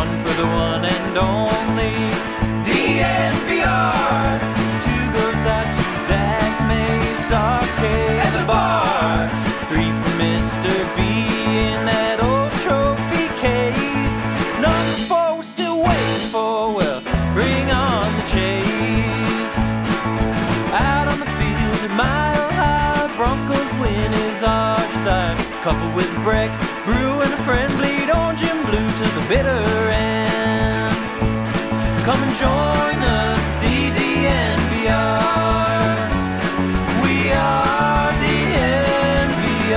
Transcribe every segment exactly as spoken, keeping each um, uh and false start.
one for the one and only D N V R. Two goes out to Zach Mace, Arcade at the bar. Three for Mister B in that old trophy case. Number four we're still waiting for, well, bring on the chase. Out on the field, a mile high, Broncos win is our desire. Coupled with a break, brew and a friend, bleed orange and blue to the bitter end. Come and join us, D D N V R. We are D N V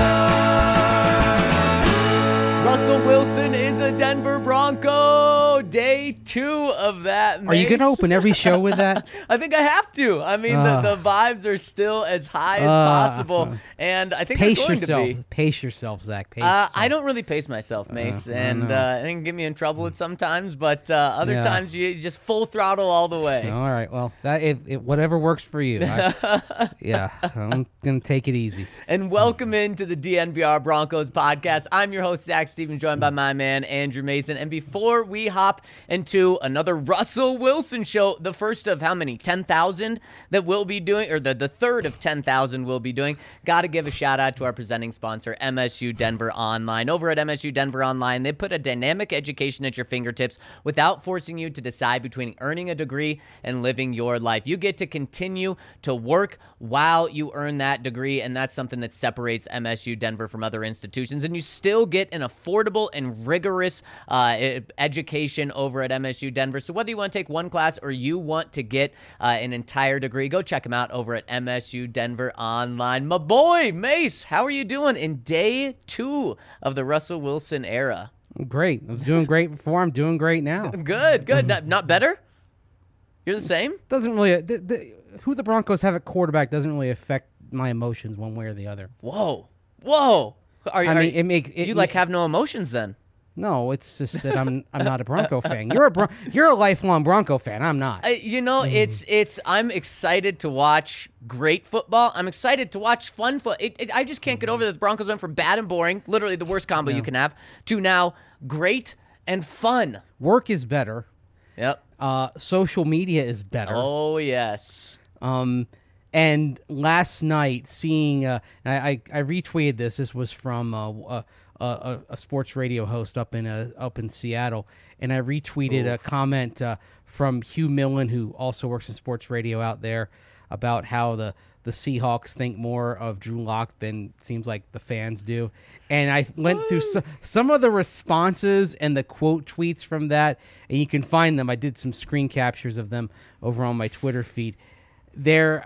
R. Russell Wilson is a Denver Bronco. Day two of that. Are you going to open every show with that? I think I have to. I mean, uh, the, the vibes are still as high as uh, possible, and I think pace they're going yourself. to be. Pace yourself, Zach. Pace uh, yourself. I don't really pace myself, Mace, uh, and uh, it can get me in trouble with sometimes, but uh, other yeah. times you just full throttle all the way. All right. Well, that it, it, whatever works for you. I, yeah, I'm going to take it easy. And welcome into the D N V R Broncos podcast. I'm your host, Zach Stevens, joined by my man, Andrew Mason. And before we hop into another Russell Wilson show, the first of how many? ten thousand that we'll be doing, or the, the third of ten thousand we'll be doing. Got to give a shout out to our presenting sponsor, M S U Denver Online. Over at M S U Denver Online, they put a dynamic education at your fingertips without forcing you to decide between earning a degree and living your life. You get to continue to work while you earn that degree, and that's something that separates M S U Denver from other institutions. And you still get an affordable and rigorous uh, education over at M S U Denver. So whether you want to take one class or you want to get uh, an entire degree, go check them out over at M S U Denver Online. My boy, Mace, how are you doing in day two of the Russell Wilson era? Great. I was doing great before. I'm doing great now. Good, good. Not, not better? You're the same? Doesn't really... The, the, who the Broncos have at quarterback doesn't really affect my emotions one way or the other. Whoa. Whoa. Are, I are mean, it makes... It, you, like, have no emotions then? No, it's just that I'm I'm not a Bronco fan. You're a Bron- you're a lifelong Bronco fan. I'm not. Uh, you know, mm. it's it's. I'm excited to watch great football. I'm excited to watch fun foot. It, it, I just can't get over that the Broncos went from bad and boring, literally the worst combo yeah. you can have, to now great and fun. Work is better. Yep. Uh, social media is better. Oh yes. Um, and last night seeing, uh, I, I I retweeted this. This was from uh. uh A, a sports radio host up in uh, up in Seattle, and I retweeted Oof. a comment uh, from Hugh Millen, who also works in sports radio out there, about how the, the Seahawks think more of Drew Lock than it seems like the fans do. And I went through so, some of the responses and the quote tweets from that, and you can find them. I did some screen captures of them over on my Twitter feed. They're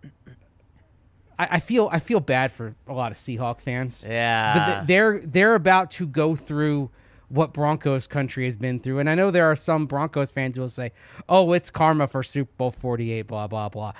I feel I feel bad for a lot of Seahawk fans. Yeah, but they're they're about to go through what Broncos country has been through, and I know there are some Broncos fans who will say, "Oh, it's karma for Super Bowl forty-eight." Blah blah blah.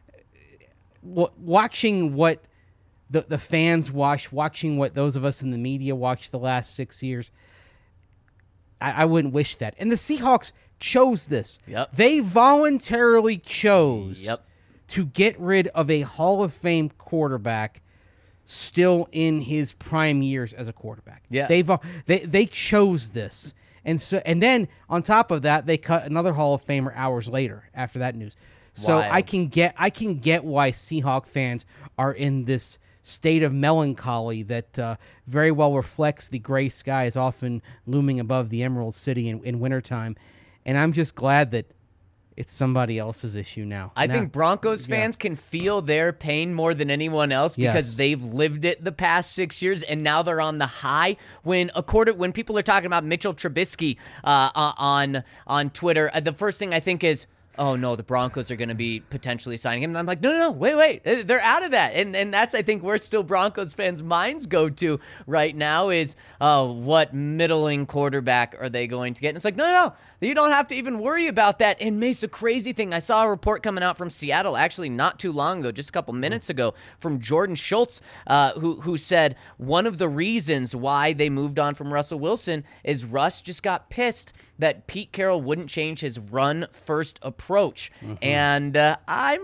Watching what the the fans watch, watching what those of us in the media watch the last six years, I, I wouldn't wish that. And the Seahawks chose this. Yep. They voluntarily chose. Yep. to get rid of a Hall of Fame quarterback still in his prime years as a quarterback. Yeah. They've, they they chose this. And so and then on top of that, they cut another Hall of Famer hours later after that news. So Wild. I can get I can get why Seahawk fans are in this state of melancholy that uh, very well reflects the gray skies often looming above the Emerald City in, in wintertime. And I'm just glad that it's somebody else's issue now. I now, think Broncos yeah. fans can feel their pain more than anyone else because yes. they've lived it the past six years, and now they're on the high. When a quarter, when people are talking about Mitchell Trubisky uh, on on Twitter, uh, the first thing I think is, oh no, the Broncos are going to be potentially signing him. And I'm like, no, no, no, wait, wait, they're out of that. And and that's, I think, where still Broncos fans' minds go to right now is, oh, what middling quarterback are they going to get? And it's like, no, no, no, you don't have to even worry about that. And Mace, a crazy thing, I saw a report coming out from Seattle actually not too long ago, just a couple minutes ago, from Jordan Schultz, uh, who who said one of the reasons why they moved on from Russell Wilson is Russ just got pissed that Pete Carroll wouldn't change his run-first approach. Mm-hmm. And uh, I'm pretty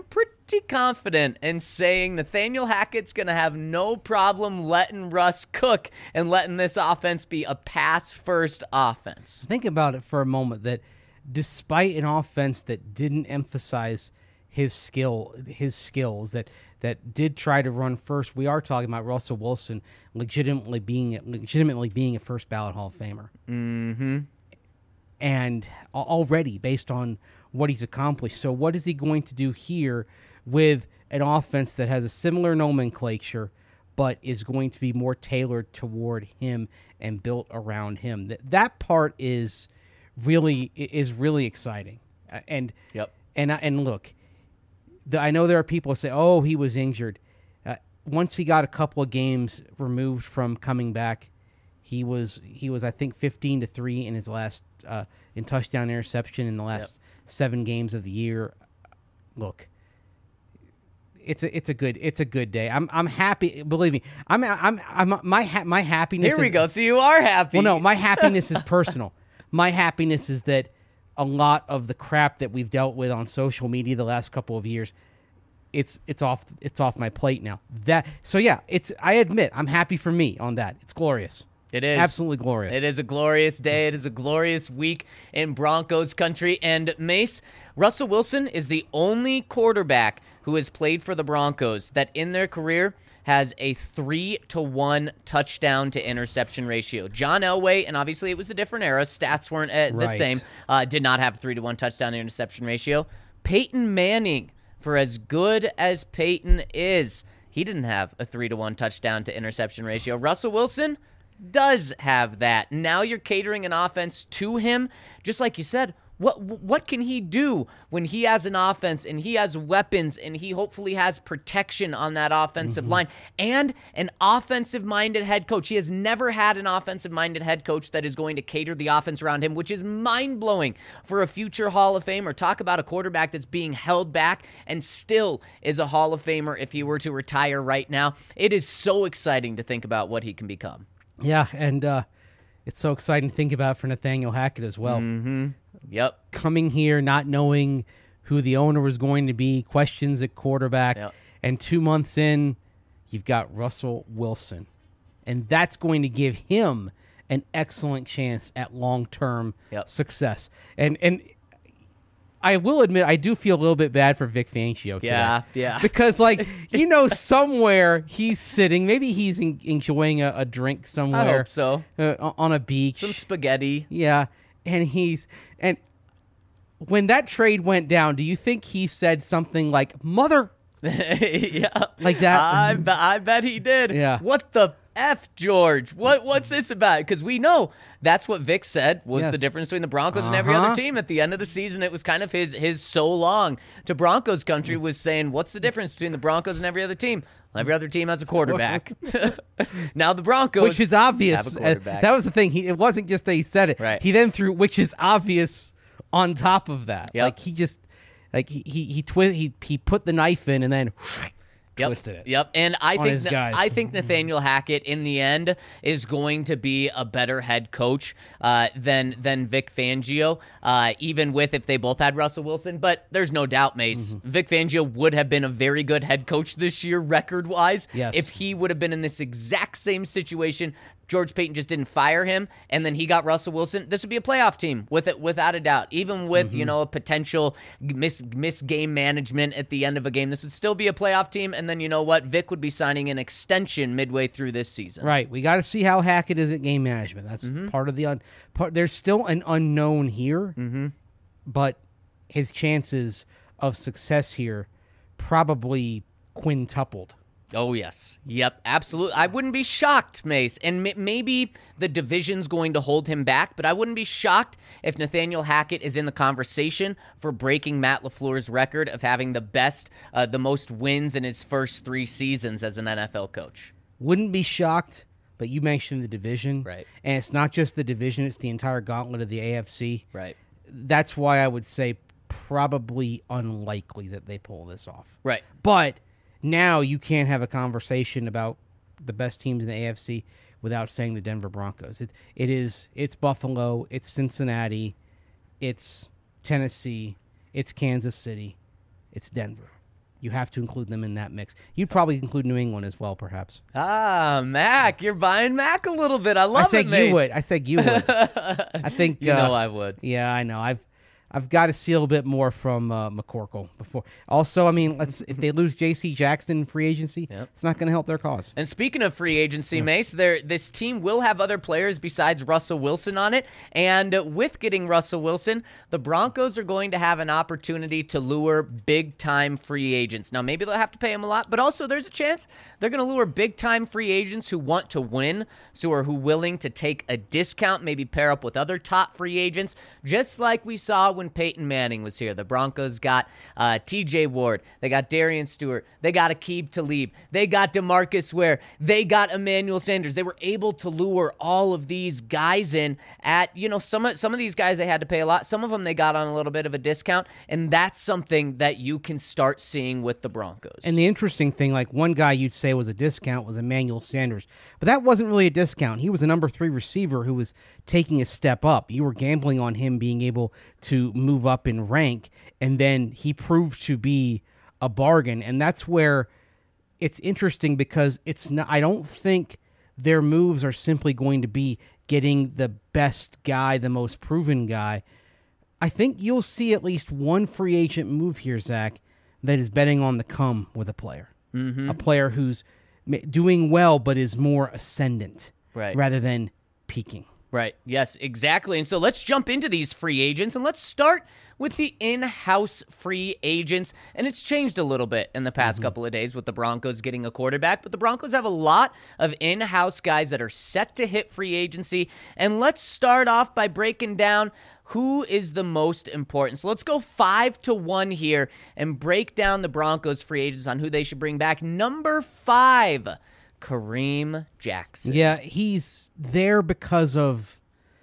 pretty confident in saying Nathaniel Hackett's going to have no problem letting Russ cook and letting this offense be a pass-first offense. Think about it for a moment, that despite an offense that didn't emphasize his skill, his skills, that that did try to run first, we are talking about Russell Wilson legitimately being legitimately being a first ballot Hall of Famer. Mm-hmm. And already based on what he's accomplished. So what is he going to do here with an offense that has a similar nomenclature but is going to be more tailored toward him and built around him? That that part is really is really exciting. And yep. and and look, the, I know there are people who say, "Oh, he was injured." Uh, once he got a couple of games removed from coming back, he was he was I think fifteen to three in his last uh, in touchdown interception in the last yep. seven games of the year. Look, it's a it's a good it's a good day. I'm I'm happy. Believe me, I'm I'm I'm my ha- my happiness. Here we is, go. So you are happy. Well, no, my happiness is personal. My happiness is that a lot of the crap that we've dealt with on social media the last couple of years, it's it's off it's off my plate now. That so yeah, it's I admit I'm happy for me on that. It's glorious. It is. Absolutely glorious. It is a glorious day. It is a glorious week in Broncos country. And Mace, Russell Wilson is the only quarterback who has played for the Broncos that in their career has a three to one touchdown to interception ratio. John Elway, and obviously it was a different era, stats weren't uh, the Right. same, uh, did not have a three to one touchdown to interception ratio. Peyton Manning, for as good as Peyton is, he didn't have a three to one touchdown to interception ratio. Russell Wilson does have that. Now you're catering an offense to him. Just like you said, what what can he do when he has an offense and he has weapons and he hopefully has protection on that offensive Mm-hmm. line and an offensive-minded head coach? He has never had an offensive-minded head coach that is going to cater the offense around him, which is mind-blowing for a future Hall of Famer. Talk about a quarterback that's being held back and still is a Hall of Famer if he were to retire right now. It is so exciting to think about what he can become. Yeah, and uh, it's so exciting to think about for Nathaniel Hackett as well. Mm-hmm. Yep. Coming here, not knowing who the owner was going to be, questions at quarterback, Yep. and two months in, you've got Russell Wilson. And that's going to give him an excellent chance at long-term Yep. success. And and I will admit, I do feel a little bit bad for Vic Fangio today. Yeah, yeah. Because, like, you know, somewhere he's sitting, maybe he's en- enjoying a, a drink somewhere. I hope so. Uh, on a beach. Some spaghetti. Yeah, and he's and when that trade went down, do you think he said something like "mother"? Yeah. Like that? I, be- I bet he did. Yeah. What the F, George? What What's this about? Because we know that's what Vic said was Yes. the difference between the Broncos and every Uh-huh. other team. At the end of the season, it was kind of his his so long to Broncos country was saying, what's the difference between the Broncos and every other team? Well, every other team has a quarterback. Now the Broncos, Which is obvious. have a Uh, quarterback. that was the thing. He, it wasn't just that he said it. Right. He then threw "which is obvious" on top of that. Yep. Like he just, like he he he, twi- he he put the knife in and then Yep. twisted it. Yep. And I on think his guys. I think Nathaniel Hackett in the end is going to be a better head coach uh, than than Vic Fangio, uh, even with if they both had Russell Wilson. But there's no doubt, Mace, Mm-hmm. Vic Fangio would have been a very good head coach this year, record wise. Yes. If he would have been in this exact same situation. George Payton just didn't fire him, and then he got Russell Wilson. This would be a playoff team with it, without a doubt. Even with Mm-hmm. you know a potential miss miss game management at the end of a game, this would still be a playoff team. And then you know what, Vic would be signing an extension midway through this season. Right. We got to see how Hackett is at game management. That's Mm-hmm. part of the un- part. There's still an unknown here, Mm-hmm. but his chances of success here probably quintupled. Oh, yes. Yep, absolutely. I wouldn't be shocked, Mace. And m- maybe the division's going to hold him back, but I wouldn't be shocked if Nathaniel Hackett is in the conversation for breaking Matt LaFleur's record of having the best, uh, the most wins in his first three seasons as an N F L coach. Wouldn't be shocked, but you mentioned the division. Right. And it's not just the division, it's the entire gauntlet of the A F C. Right. That's why I would say probably unlikely that they pull this off. Right. But now you can't have a conversation about the best teams in the A F C without saying the Denver Broncos. It, it is, it's Buffalo, it's Cincinnati, it's Tennessee, it's Kansas City, it's Denver. you have to include them in that mix. You'd probably include New England as well, perhaps. Ah, Mac. You're buying Mac a little bit. I love I said it, Mace. you would. I said you would. I think You uh, know I would. Yeah, I know. I've I've got to see a little bit more from uh, McCorkle before. Also, I mean, let's if they lose J C Jackson in free agency, Yep. it's not going to help their cause. And speaking of free agency, Mace, there this team will have other players besides Russell Wilson on it. And with getting Russell Wilson, the Broncos are going to have an opportunity to lure big-time free agents. Now, maybe they'll have to pay them a lot, but also there's a chance they're going to lure big-time free agents who want to win, so are who willing to take a discount, maybe pair up with other top free agents, just like we saw when Peyton Manning was here. The Broncos got uh, T J Ward. They got Darian Stewart. They got Aqib Talib. They got DeMarcus Ware. They got Emmanuel Sanders. They were able to lure all of these guys in at, you know, some of, some of these guys they had to pay a lot. Some of them they got on a little bit of a discount, and that's something that you can start seeing with the Broncos. And the interesting thing, like one guy you'd say was a discount was Emmanuel Sanders, but that wasn't really a discount. He was a number three receiver who was taking a step up. You were gambling on him being able to move up in rank, and then he proved to be a bargain. And that's where it's interesting, because it's not, I don't think their moves are simply going to be getting the best guy, the most proven guy. I think you'll see at least one free agent move here, Zach, that is betting on the come with a player. Mm-hmm. A player who's doing well but is more ascendant, right, rather than peaking. Right. Yes, exactly. And so let's jump into these free agents, and let's start with the in-house free agents. And it's changed a little bit in the past mm-hmm. couple of days with the Broncos getting a quarterback, but the Broncos have a lot of in-house guys that are set to hit free agency. And let's start off by breaking down who is the most important. So let's go five to one here and break down the Broncos free agents on who they should bring back. Number five, Kareem Jackson. Yeah, he's there because of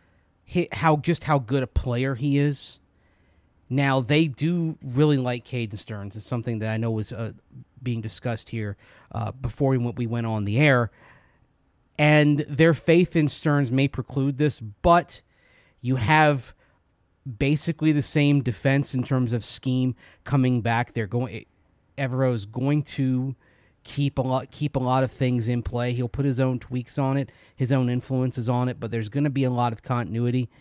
how just how good a player he is. Now, they do really like Caden Stearns. It's something that I know was uh, being discussed here uh, before we went, we went on the air. And their faith in Stearns may preclude this, but you have basically the same defense in terms of scheme coming back. They're going. Evero's going to keep a lot keep a lot of things in play. He'll put his own tweaks on it, his own influences on it, but there's going to be a lot of continuity.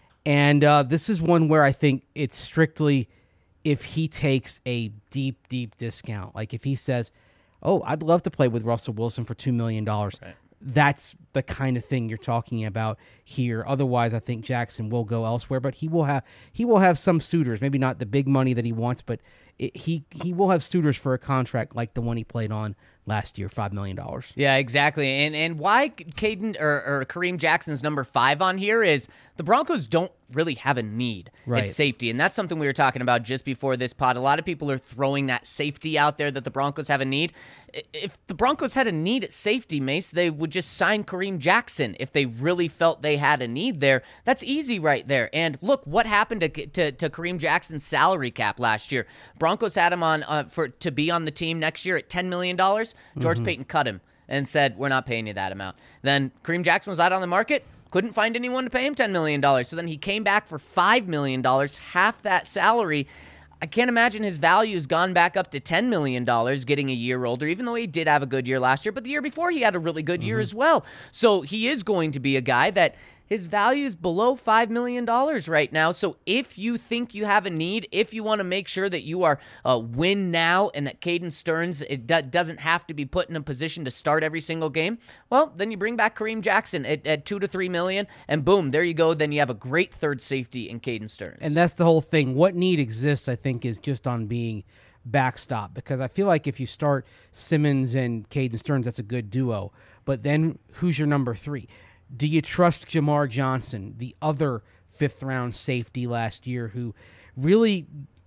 And uh, this is one where I think it's strictly if he takes a deep, deep discount. Like if he says, oh, I'd love to play with Russell Wilson for two million dollars. Right. That's the kind of thing you're talking about here. Otherwise, I think Jackson will go elsewhere, but he will have he will have some suitors. Maybe not the big money that he wants, but it, he he will have suitors for a contract like the one he played on last year, five million dollars. Yeah, exactly. And and why Caden or, or Kareem Jackson's number five on here is the Broncos don't really have a need right. at safety. And that's something we were talking about just before this pod. A lot of people are throwing that safety out there that the Broncos have a need. If the Broncos had a need at safety, Mace, they would just sign Kareem Jackson if they really felt they had a need there. That's easy right there. And look, what happened to to, to Kareem Jackson's salary cap last year? Broncos had him on uh, for to be on the team next year at ten million dollars. George mm-hmm. Payton cut him and said, we're not paying you that amount. Then Kareem Jackson was out on the market. Couldn't find anyone to pay him ten million dollars. So then he came back for five million dollars, half that salary. I can't imagine his value has gone back up to ten million dollars getting a year older, even though he did have a good year last year. But the year before, he had a really good mm-hmm. year as well. So he is going to be a guy that his value is below five million dollars right now. So if you think you have a need, if you want to make sure that you are uh, win now and that Caden Stearns it do- doesn't have to be put in a position to start every single game, well, then you bring back Kareem Jackson at, at two to three million, and boom, there you go. Then you have a great third safety in Caden Stearns. And that's the whole thing. What need exists, I think, is just on being backstop, because I feel like if you start Simmons and Caden Stearns, that's a good duo. But then who's your number three? Do you trust Jamar Johnson, the other fifth-round safety last year, who really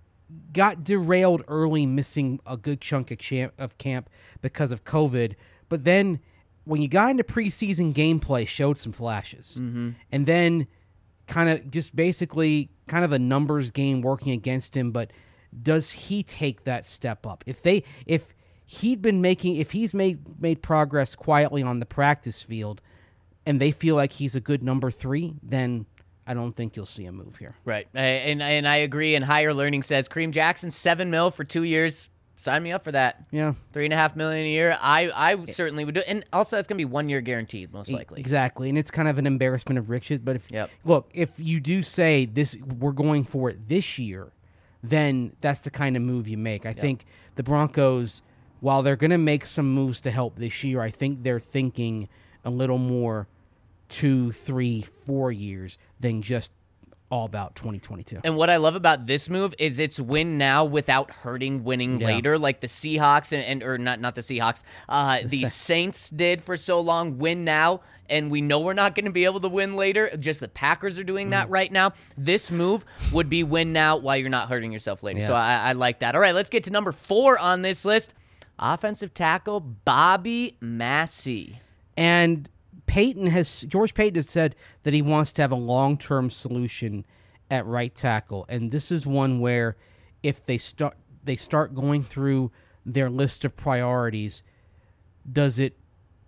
got derailed early, missing a good chunk of, champ, of camp because of COVID, but then when you got into preseason gameplay, showed some flashes, mm-hmm. and then kind of just basically kind of a numbers game working against him, but does he take that step up? If they, if he'd been making, if he's made made progress quietly on the practice field, and they feel like he's a good number three, then I don't think you'll see a move here. Right. And and I agree. And Higher Learning says Kareem Jackson, seven mil for two years. sign me up for that. Yeah. Three and a half million a year. I, I certainly would do it. And also that's going to be one year guaranteed, most likely. Exactly. And it's kind of an embarrassment of riches. But if Yep. look, if you do say this, we're going for it this year, then that's the kind of move you make. I yep. think the Broncos, while they're going to make some moves to help this year, I think they're thinking a little more two, three, four years than just all about twenty twenty-two. And what I love about this move is it's win now without hurting winning yeah. later, like the Seahawks and, and or not not the Seahawks, uh, the, the Saints did for so long. Win now, and we know we're not going to be able to win later. Just the Packers are doing that mm. right now. This move would be win now while you're not hurting yourself later. Yeah. So I, I like that. All right, let's get to number four on this list. Offensive tackle Bobby Massie. And Payton has George Payton has said that he wants to have a long-term solution at right tackle, and this is one where if they start they start going through their list of priorities, does it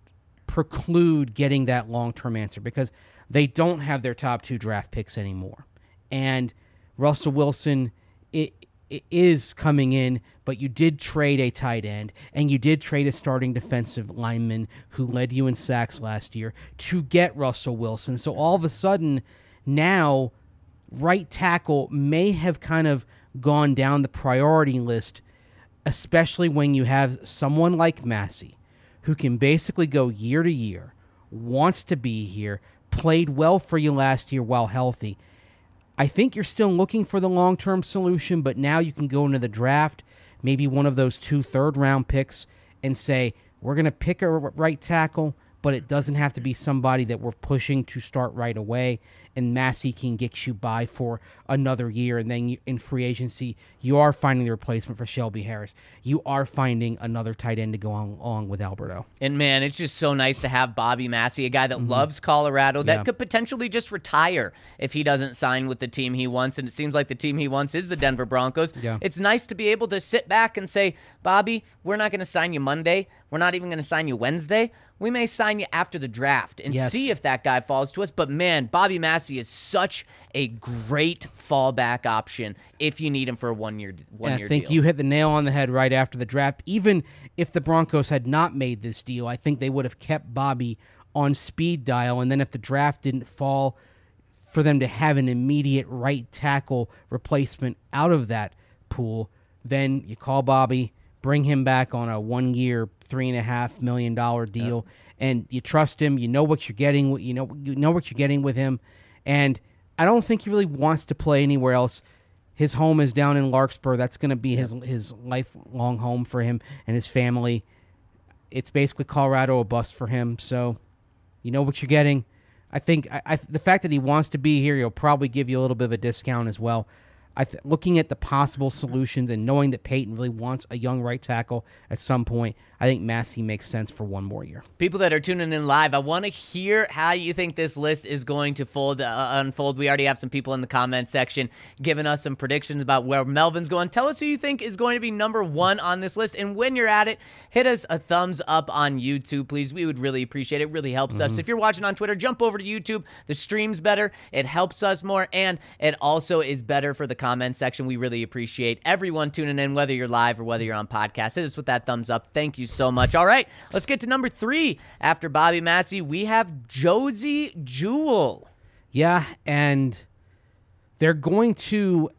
preclude getting that long-term answer? Because they don't have their top two draft picks anymore, and Russell Wilson it, it is coming in, but you did trade a tight end, and you did trade a starting defensive lineman who led you in sacks last year to get Russell Wilson. So all of a sudden, now, right tackle may have kind of gone down the priority list, especially when you have someone like Massie, who can basically go year to year, wants to be here, played well for you last year while healthy. I think you're still looking for the long-term solution, but now you can go into the draft, maybe one of those two third-round picks, and say, we're going to pick a right tackle, but it doesn't have to be somebody that we're pushing to start right away, and Massie can get you by for another year, and then you, in free agency, you are finding the replacement for Shelby Harris. You are finding another tight end to go on, along with Alberto. And, man, it's just so nice to have Bobby Massie, a guy that mm-hmm. loves Colorado, that yeah. could potentially just retire if he doesn't sign with the team he wants, and it seems like the team he wants is the Denver Broncos. Yeah. It's nice to be able to sit back and say, Bobby, we're not going to sign you Monday. We're not even going to sign you Wednesday. We may sign you after the draft and yes. see if that guy falls to us. But, man, Bobby Massie is such a great fallback option if you need him for a one-year one and year I think deal. You hit the nail on the head right after the draft. Even if the Broncos had not made this deal, I think they would have kept Bobby on speed dial. And then if the draft didn't fall, for them to have an immediate right tackle replacement out of that pool, then you call Bobby, bring him back on a one-year, three and a half million dollar deal, yep. and you trust him. You know what you're getting. You know you know what you're getting with him, and I don't think he really wants to play anywhere else. His home is down in Larkspur. That's going to be his yep. his lifelong home for him and his family. It's basically Colorado, a bust for him. So, you know what you're getting. I think I, I, the fact that he wants to be here, he'll probably give you a little bit of a discount as well. I th- looking at the possible solutions and knowing that Payton really wants a young right tackle at some point, I think Massie makes sense for one more year. People that are tuning in live, I want to hear how you think this list is going to fold, uh, unfold. We already have some people in the comment section giving us some predictions about where Melvin's going. Tell us who you think is going to be number one on this list. And when you're at it, hit us a thumbs up on YouTube, please. We would really appreciate it. It really helps mm-hmm. us. If you're watching on Twitter, jump over to YouTube. The stream's better. It helps us more. And it also is better for the comment section. We really appreciate everyone tuning in, whether you're live or whether you're on podcast. Hit us with that thumbs up. Thank you so much. All right, let's get to number three. After Bobby Massie, we have Josey Jewell. Yeah, and they're going to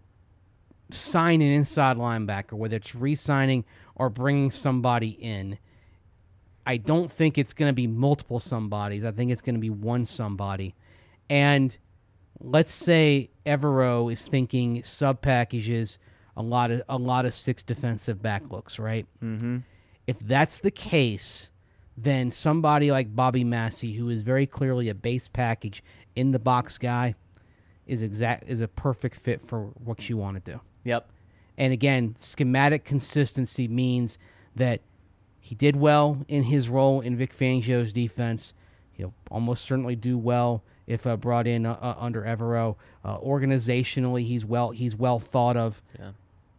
sign an inside linebacker, whether it's re-signing or bringing somebody in. I don't think it's going to be multiple somebodies. I think it's going to be one somebody. And let's say Evero is thinking sub packages, a lot of a lot of six defensive back looks, right? Mm-hmm. If that's the case, then somebody like Bobby Massie, who is very clearly a base package in the box guy, is exact is a perfect fit for what you want to do. Yep. And again, schematic consistency means that he did well in his role in Vic Fangio's defense. He'll almost certainly do well if uh, brought in uh, uh, under Evero. Uh, organizationally, he's well he's well thought of. Yeah.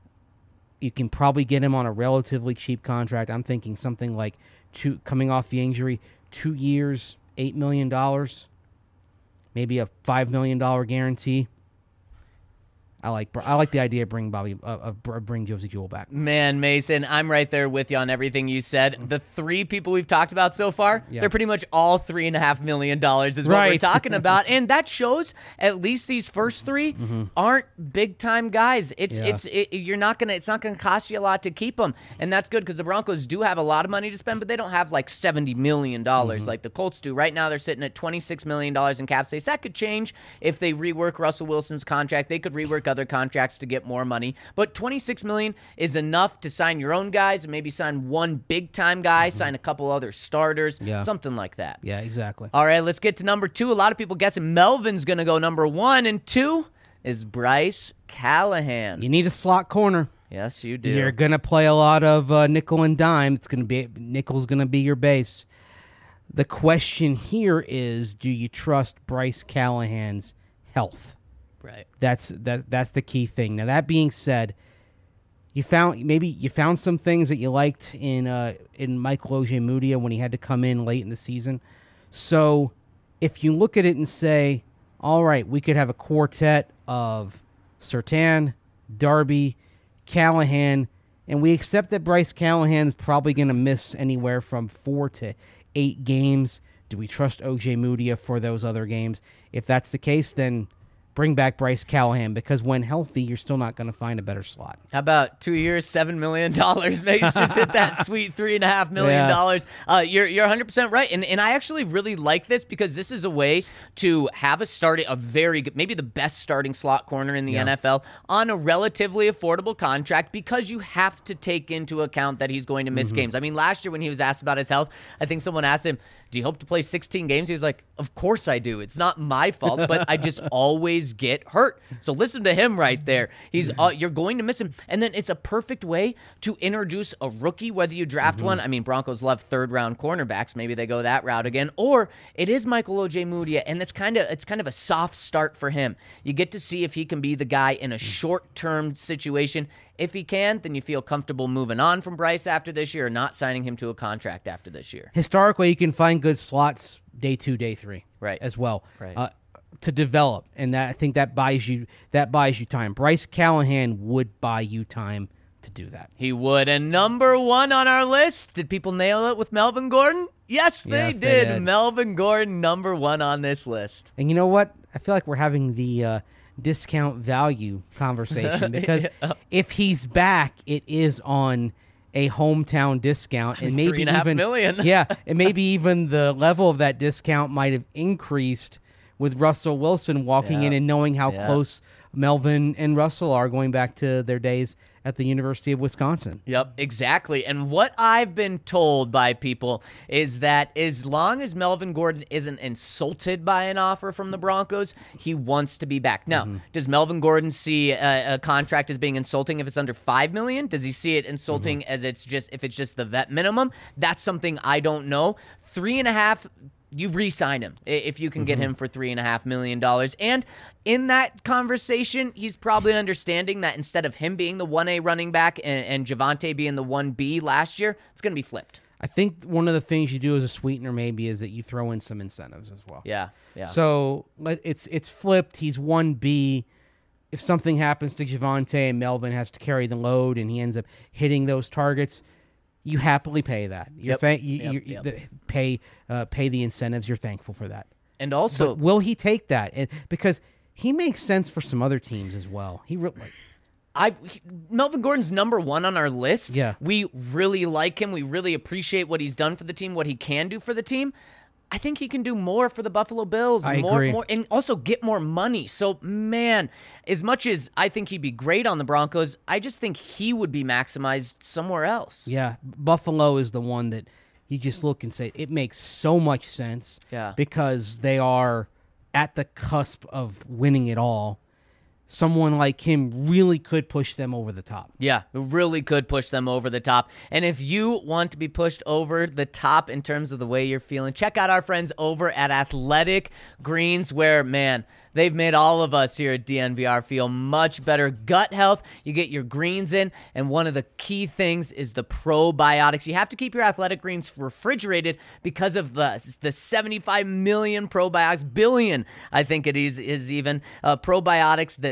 You can probably get him on a relatively cheap contract. I'm thinking something like two coming off the injury, two years, eight million dollars, maybe a five million dollar guarantee. I like I like the idea of bringing Bobby uh, of bring Josie Jewell back. Man, Mason, I'm right there with you on everything you said. The three people we've talked about so far, Yeah. they're pretty much all three and a half million dollars is what we're Right. talking about, and that shows at least these first three aren't big time guys. It's Yeah. it's it, you're not gonna it's not gonna cost you a lot to keep them, and that's good because the Broncos do have a lot of money to spend, but they don't have like seventy million dollars like the Colts do. Right now, they're sitting at twenty-six million dollars in cap space. That could change if they rework Russell Wilson's contract. They could rework other contracts to get more money, but twenty-six million dollars is enough to sign your own guys and maybe sign one big time guy, sign a couple other starters, Yeah. something like that. Yeah, exactly. All right, let's get to number two. A lot of people guessing Melvin's going to go number one, and two is Bryce Callahan. You need a slot corner. Yes, you do. You're gonna play a lot of uh, nickel and dime. It's gonna be nickel's gonna be your base. The question here is, do you trust Bryce Callahan's health? Right. That's that. That's the key thing. Now, that being said, you found maybe you found some things that you liked in uh, in Michael Ojemudia when he had to come in late in the season. So, if you look at it and say, all right, we could have a quartet of Surtain, Darby, Callahan, and we accept that Bryce Callahan's probably going to miss anywhere from four to eight games. Do we trust Ojemudia for those other games? If that's the case, then bring back Bryce Callahan, because when healthy, you're still not going to find a better slot. How about two years, seven million dollars? Mace just hit that sweet three and a half million dollars. Yes. Uh, you're you're one hundred percent right, and and I actually really like this because this is a way to have a starting, a very good, maybe the best starting slot corner in the Yeah. N F L on a relatively affordable contract, because you have to take into account that he's going to miss games. I mean, last year when he was asked about his health, I think someone asked him, "Do you hope to play sixteen games?" He was like, "Of course I do. It's not my fault, but I just always get hurt." So listen to him right there. He's uh, you're going to miss him, and then it's a perfect way to introduce a rookie, whether you draft one. I mean, Broncos love third round cornerbacks. Maybe they go that route again, or it is Michael Ojemudia, and it's kind of it's kind of a soft start for him. You get to see if he can be the guy in a short term situation. If he can, then you feel comfortable moving on from Bryce after this year, or not signing him to a contract after this year. Historically, you can find good slots day two, day three, Right. as well, Right. uh, to develop, and that I think that buys you that buys you time. Bryce Callahan would buy you time to do that. He would. And number one on our list, did people nail it with Melvin Gordon? Yes, they, Yes, they did. did. Melvin Gordon, number one on this list. And you know what? I feel like we're having the uh, discount value conversation, because Yeah. if he's back, it is on a hometown discount, and maybe Three and a half even million. yeah, and maybe even the level of that discount might have increased with Russell Wilson walking Yeah. in and knowing how Yeah. close Melvin and Russell are, going back to their days at the University of Wisconsin. Yep, exactly. And what I've been told by people is that as long as Melvin Gordon isn't insulted by an offer from the Broncos, he wants to be back. Now, does Melvin Gordon see a, a contract as being insulting if it's under five million dollars? Does he see it insulting as it's just if it's just the vet minimum? That's something I don't know. Three and a half. You re-sign him i- if you can get him for three and a half million dollars. And in that conversation, he's probably understanding that instead of him being the one A running back and, and Javonte being the one B last year, it's going to be flipped. I think one of the things you do as a sweetener maybe is that you throw in some incentives as well. Yeah, yeah. So let- it's it's flipped. He's one B. If something happens to Javonte and Melvin has to carry the load and he ends up hitting those targets, you happily pay that. You're Yep, thank- you, yep, you, yep. the- pay uh, pay the incentives. You're thankful for that. and also, But will he take that? And because he makes sense for some other teams as well. He re- like, I Melvin Gordon's number one on our list. Yeah. We really like him. We really appreciate what he's done for the team, what he can do for the team. I think he can do more for the Buffalo Bills. I more, agree. more, and also get more money. So, man, as much as I think he'd be great on the Broncos, I just think he would be maximized somewhere else. yeah, Buffalo is the one that you just look and say it makes so much sense. Yeah. Because they are at the cusp of winning it all. Someone like him really could push them over the top. Yeah, it really could push them over the top. And if you want to be pushed over the top in terms of the way you're feeling, check out our friends over at Athletic Greens, where, man, they've made all of us here at D N V R feel much better. Gut health, you get your greens in, and one of the key things is the probiotics. You have to keep your Athletic Greens refrigerated because of the the seventy-five million probiotics, billion, I think it is, is even, uh, probiotics that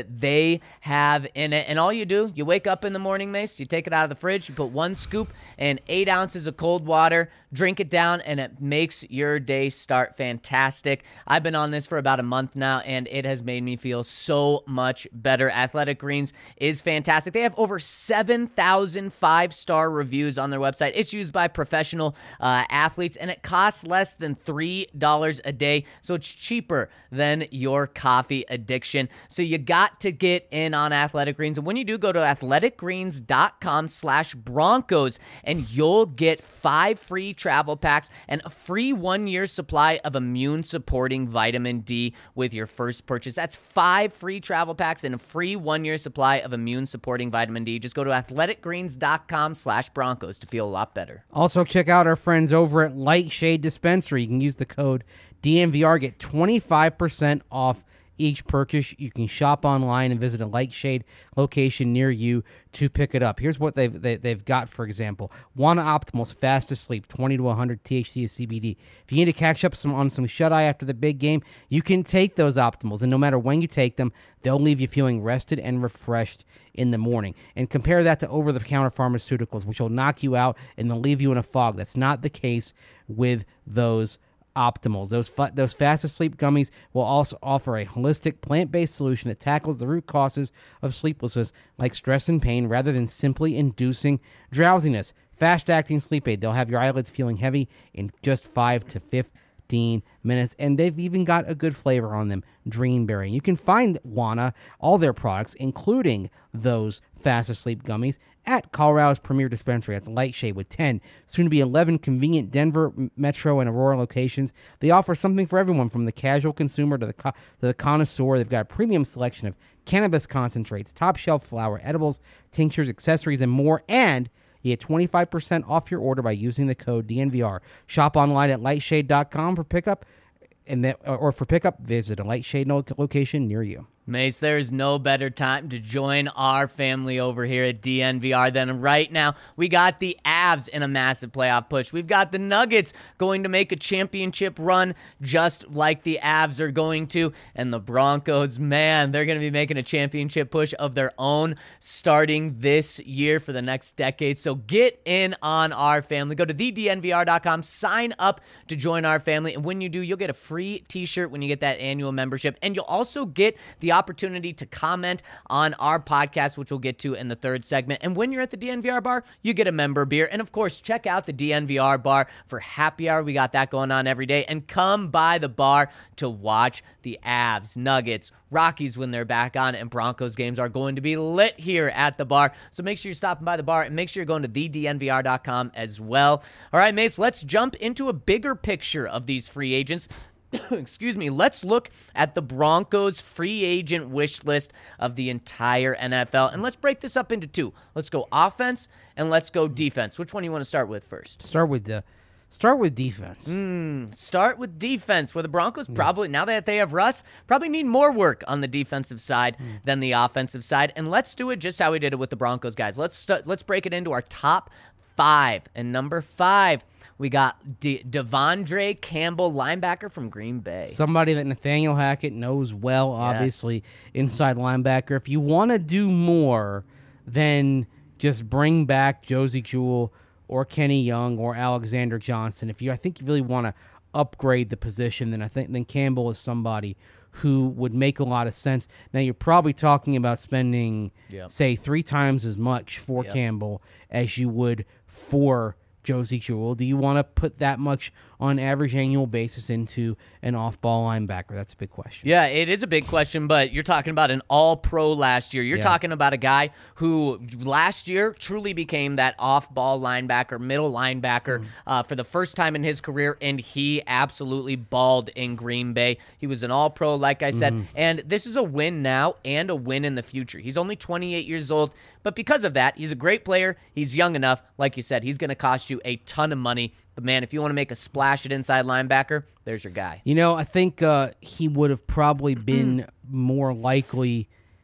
that they have in it. And all you do, you wake up in the morning, Mace, you take it out of the fridge, you put one scoop and eight ounces of cold water, drink it down, and it makes your day start fantastic. I've been on this for about a month now, and it has made me feel so much better. Athletic Greens is fantastic. They have over seven thousand five-star reviews on their website. It's used by professional uh, athletes, and it costs less than three dollars a day, so it's cheaper than your coffee addiction. So you got to get in on Athletic Greens, and when you do, go to athleticgreens.com slash Broncos, and you'll get five free travel packs and a free one-year supply of immune-supporting vitamin D with your first purchase. That's five free travel packs and a free one-year supply of immune-supporting vitamin D. Just go to athleticgreens.com slash Broncos to feel a lot better. Also, check out our friends over at Lightshade Dispensary. You can use the code D N V R, get twenty-five percent off each purchase. You can shop online and visit a Lightshade location near you to pick it up. Here's what they've they, they've got, for example. Wana Optimal's Fast to Sleep, twenty to one hundred T H C to C B D. If you need to catch up some on some shut-eye after the big game, you can take those Optimals, and no matter when you take them, they'll leave you feeling rested and refreshed in the morning. And compare that to over-the-counter pharmaceuticals, which will knock you out and they'll leave you in a fog. That's not the case with those Optimals. Those fa- those fast asleep gummies will also offer a holistic plant-based solution that tackles the root causes of sleeplessness like stress and pain rather than simply inducing drowsiness. Fast-acting sleep aid. They'll have your eyelids feeling heavy in just five to fifteen minutes, and they've even got a good flavor on them, Dreamberry. You can find Wana, all their products, including those fast asleep gummies, at Colorado's premier dispensary. That's Lightshade with ten, soon to be eleven convenient Denver, Metro, and Aurora locations. They offer something for everyone, from the casual consumer to the co- to the connoisseur. They've got a premium selection of cannabis concentrates, top shelf flower, edibles, tinctures, accessories, and more. And you get twenty-five percent off your order by using the code D N V R. Shop online at lightshade dot com for pickup, and that, or for pickup, visit a Lightshade location near you. Mace, there is no better time to join our family over here at D N V R than right now. We got the Avs in a massive playoff push. We've got the Nuggets going to make a championship run just like the Avs are going to. And the Broncos, man, they're going to be making a championship push of their own starting this year for the next decade. So get in on our family. Go to the D N V R dot com, sign up to join our family. And when you do, you'll get a free t-shirt when you get that annual membership. And you'll also get the opportunity to comment on our podcast, which we'll get to in the third segment. And when you're at the D N V R bar, you get a member beer. And of course, check out the D N V R bar for happy hour. We got that going on every day. And come by the bar to watch the Avs, Nuggets, Rockies when they're back on, and Broncos games are going to be lit here at the bar. So make sure you're stopping by the bar, and make sure you're going to the D N V R dot com as well. All right, Mace, let's jump into a bigger picture of these free agents. Excuse me. Let's look at the Broncos free agent wish list of the entire N F L. And let's break this up into two. Let's go offense and let's go defense. Which one do you want to start with first? Start with the start with defense. Mm, start with defense, where the Broncos probably, now that they have Russ, probably need more work on the defensive side mm. than the offensive side. And let's do it just how we did it with the Broncos, guys. Let's st- let's break it into our top five. And number five, we got De- Devondre Campbell, linebacker from Green Bay. Somebody that Nathaniel Hackett knows well, obviously, yes. Inside linebacker. If you want to do more than just bring back Josie Jewell or Kenny Young or Alexander Johnson, if you, I think you really want to upgrade the position, then I think then Campbell is somebody who would make a lot of sense. Now, you're probably talking about spending, yep. say, three times as much for yep. Campbell as you would for Josie Jewell. Do you want to put that much on an average annual basis into an off-ball linebacker? That's a big question. Yeah, it is a big question, but you're talking about an all-pro last year. You're yeah. talking about a guy who last year truly became that off-ball linebacker, middle linebacker mm. uh, for the first time in his career, and he absolutely balled in Green Bay. He was an all-pro, like I said, mm. and this is a win now and a win in the future. He's only twenty-eight years old, but because of that, he's a great player. He's young enough. Like you said, he's going to cost you a ton of money. But, man, if you want to make a splash at inside linebacker, there's your guy. You know, I think uh, he would have probably been more likely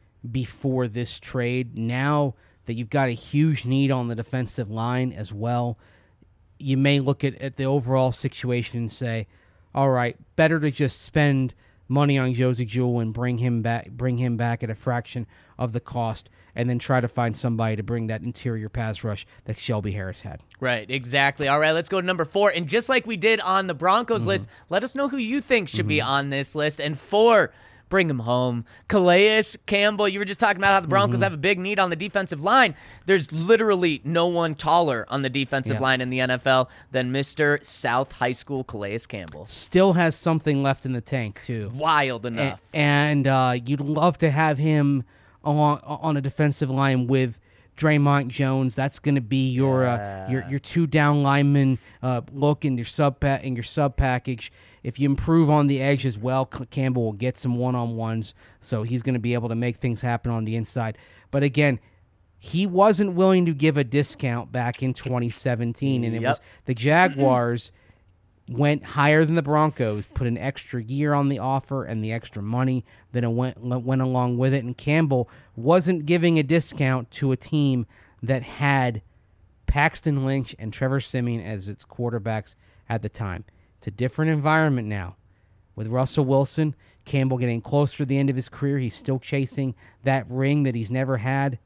before this trade. Now that you've got a huge need on the defensive line as well, you may look at, at the overall situation and say, all right, better to just spend money on Josie Jewell and bring him back, bring him back at a fraction of the cost, and then try to find somebody to bring that interior pass rush that Shelby Harris had. Right, exactly. All right, let's go to number four. And just like we did on the Broncos mm-hmm. list, let us know who you think should mm-hmm. be on this list. And four, bring him home. Calais Campbell, you were just talking about how the Broncos mm-hmm. have a big need on the defensive line. There's literally no one taller on the defensive yeah. line in the N F L than Mister South High School Calais Campbell. Still has something left in the tank, too. Wild enough. A- and uh, you'd love to have him on, on a defensive line with Draymond Jones. That's going to be your, yeah. uh, your your two down lineman uh, look in your sub pa- in your sub package. If you improve on the edge as well, Campbell will get some one on ones, so he's going to be able to make things happen on the inside. But again, he wasn't willing to give a discount back in twenty seventeen, and it yep. was the Jaguars went higher than the Broncos, put an extra year on the offer and the extra money that it went went along with it. And Campbell wasn't giving a discount to a team that had Paxton Lynch and Trevor Siemian as its quarterbacks at the time. It's a different environment now. With Russell Wilson, Campbell getting closer to the end of his career, he's still chasing that ring that he's never had.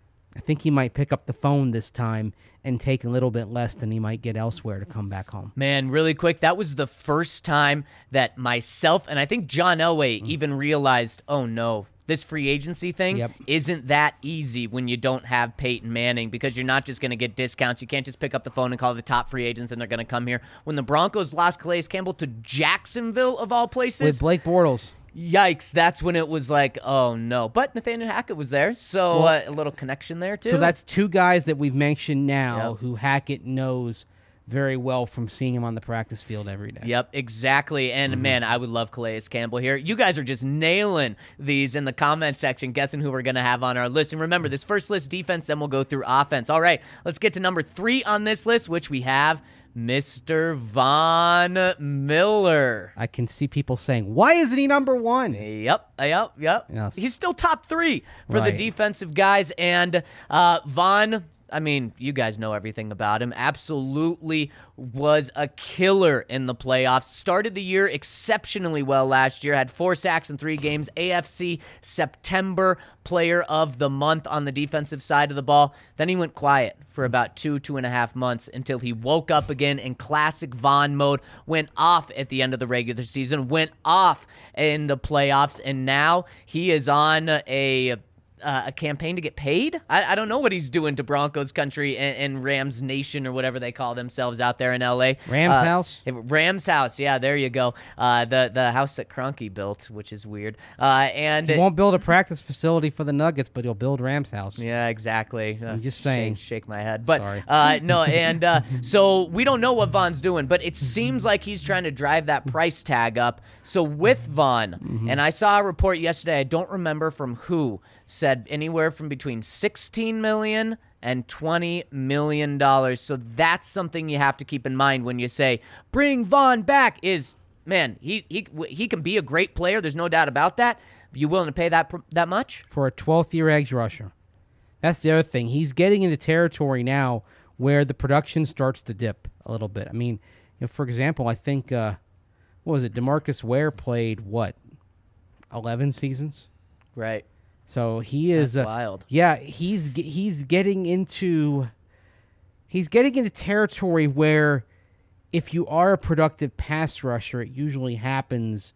I think he might pick up the phone this time and take a little bit less than he might get elsewhere to come back home. Man, really quick, that was the first time that myself and I think John Elway mm. even realized, oh no, this free agency thing yep. isn't that easy when you don't have Peyton Manning, because you're not just going to get discounts. You can't just pick up the phone and call the top free agents and they're going to come here. When the Broncos lost Calais Campbell to Jacksonville, of all places. With Blake Bortles. Yikes, that's when it was like, oh no. But Nathaniel Hackett was there, so well, uh, a little connection there too. So that's two guys that we've mentioned now yep. who Hackett knows very well from seeing him on the practice field every day. Yep, exactly. And mm-hmm. man, I would love Calais Campbell here. You guys are just nailing these in the comment section, guessing who we're going to have on our list. And remember, this first list, defense, then we'll go through offense. All right, let's get to number three on this list, which we have Mister Von Miller. I can see people saying, why isn't he number one? Yep, yep, yep. Yes. He's still top three for right. the defensive guys. And uh, Von, I mean, you guys know everything about him. Absolutely was a killer in the playoffs. Started the year exceptionally well last year. Had four sacks in three games. A F C September Player of the Month on the defensive side of the ball. Then he went quiet for about two, two and a half months until he woke up again in classic Von mode, went off at the end of the regular season, went off in the playoffs, and now he is on a... Uh, a campaign to get paid? I, I don't know what he's doing to Broncos country and, and Rams Nation or whatever they call themselves out there in L A. Rams uh, house? Rams house, yeah, there you go. Uh, the the house that Kroenke built, which is weird. Uh, and he won't build a practice facility for the Nuggets, but he'll build Rams house. Yeah, exactly. I'm just saying. Shake, shake my head. But Sorry. Uh, no, and uh, so we don't know what Von's doing, but it seems like he's trying to drive that price tag up. So with Von, mm-hmm. and I saw a report yesterday, I don't remember from who, said anywhere from between sixteen million dollars and twenty million dollars. So that's something you have to keep in mind when you say, bring Von back. Is, man, he he he can be a great player. There's no doubt about that. You willing to pay that that much? For a twelfth-year edge rusher. That's the other thing. He's getting into territory now where the production starts to dip a little bit. I mean, you know, for example, I think, uh, what was it, DeMarcus Ware played, what, eleven seasons? Right. So he is That's uh, wild. Yeah, he's he's getting into he's getting into territory where if you are a productive pass rusher, it usually happens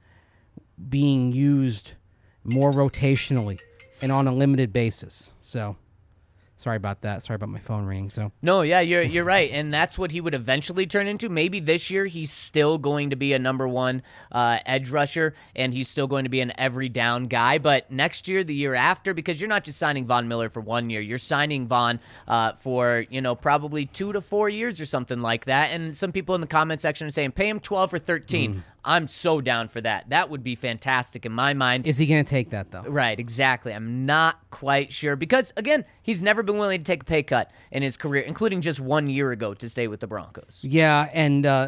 being used more rotationally and on a limited basis. So sorry about that. Sorry about my phone ringing. So no, yeah, you're you're right, and that's what he would eventually turn into. Maybe this year he's still going to be a number one uh, edge rusher, and he's still going to be an every down guy. But next year, the year after, because you're not just signing Von Miller for one year, you're signing Von uh, for you know probably two to four years or something like that. And some people in the comment section are saying pay him twelve or thirteen. Mm. I'm so down for that. That would be fantastic in my mind. Is he going to take that, though? Right, exactly. I'm not quite sure. Because, again, he's never been willing to take a pay cut in his career, including just one year ago to stay with the Broncos. Yeah, and uh,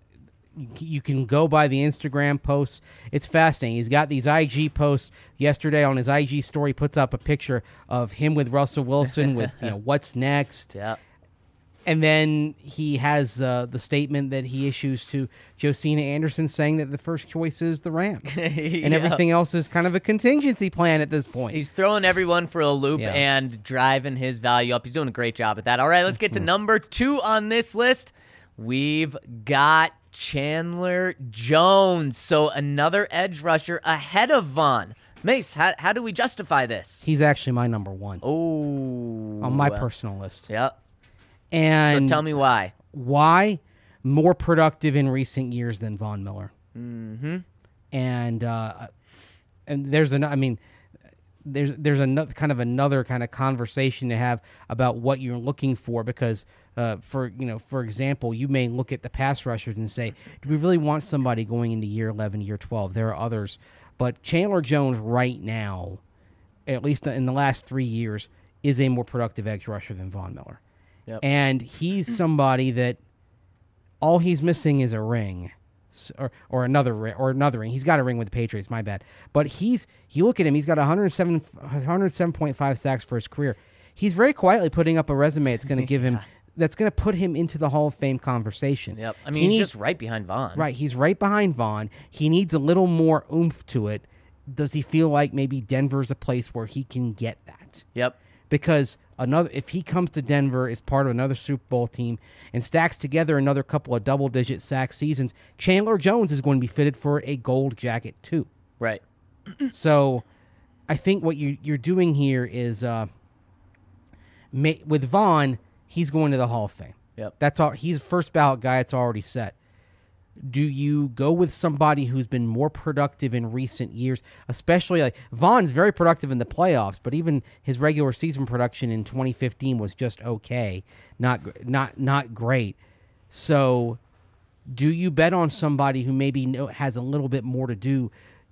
you can go by the Instagram posts. It's fascinating. He's got these I G posts. Yesterday on his I G story, puts up a picture of him with Russell Wilson with, you know, what's next. Yeah. And then he has uh, the statement that he issues to Josina Anderson saying that the first choice is the Rams. And Yeah. everything else is kind of a contingency plan at this point. He's throwing everyone for a loop Yeah. and driving his value up. He's doing a great job at that. All right, let's get to number two on this list. We've got Chandler Jones. So another edge rusher ahead of Vaughn. Mace, how, how do we justify this? He's actually my number one Oh. on my personal list. Yep. And So tell me why. why? More productive in recent years than Von Miller. Mm-hmm. And uh, and there's an I mean, there's there's another kind of another kind of conversation to have about what you're looking for because uh, for you know for example, you may look at the pass rushers and say, do we really want somebody going into year eleven, year twelve? There are others, but Chandler Jones right now, at least in the last three years, is a more productive edge rusher than Von Miller. Yep. And he's somebody that all he's missing is a ring, S- or or another ring, or another ring. He's got a ring with the Patriots. My bad. But he's you look at him. He's got one hundred seven, one hundred seven point five sacks for his career. He's very quietly putting up a resume that's going to give him that's going to put him into the Hall of Fame conversation. Yep. I He mean, he's needs- just right behind Vaughn. right. He's right behind Vaughn. He needs a little more oomph to it. Does he feel like maybe Denver's a place where he can get that? Yep. Because another, if he comes to Denver as part of another Super Bowl team and stacks together another couple of double-digit sack seasons, Chandler Jones is going to be fitted for a gold jacket too. Right. So, I think what you, you're doing here is, uh, ma- with Vaughn, he's going to the Hall of Fame. Yep. That's all. He's a first ballot guy. It's already set. Do you go with somebody who's been more productive in recent years, especially like Vaughn's very productive in the playoffs, but even his regular season production in twenty fifteen was just okay, not not not great. So, do you bet on somebody who maybe know, has a little bit more to do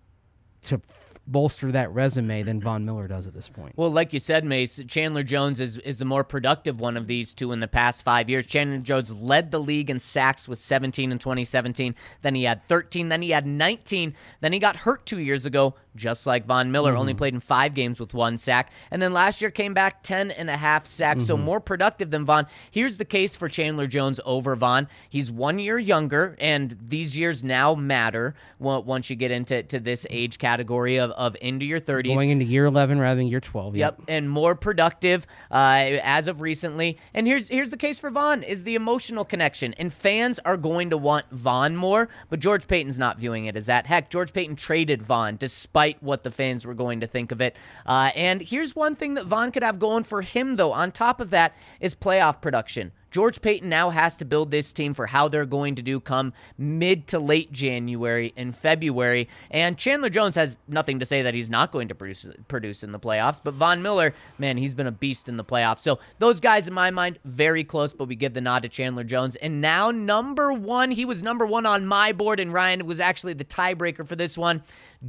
to f- bolster that resume than Von Miller does at this point? Well, like you said, Mace, Chandler Jones is, is the more productive one of these two in the past five years. Chandler Jones led the league in sacks with seventeen in twenty seventeen. Then he had thirteen. Then he had nineteen. Then he got hurt two years ago, just like Von Miller, Mm-hmm. only played in five games with one sack. And then last year came back ten and a half sacks, so Mm-hmm. more productive than Von. Here's the case for Chandler Jones over Von. He's one year younger, and these years now matter on- once you get into to this age category of, of into your thirties. Going into year eleven rather than year twelve. Yep, and more productive uh, as of recently. And here's here's the case for Vaughn, is the emotional connection. And fans are going to want Vaughn more, but George Payton's not viewing it as that. Heck, George Payton traded Vaughn despite what the fans were going to think of it. Uh, and here's one thing that Vaughn could have going for him, though, on top of that, is playoff production. George Payton now has to build this team for how they're going to do come mid to late January and February. And Chandler Jones has nothing to say that he's not going to produce, produce in the playoffs. But Von Miller, man, he's been a beast in the playoffs. So those guys, in my mind, very close, but we give the nod to Chandler Jones. And now number one, he was number one on my board, and Ryan was actually the tiebreaker for this one,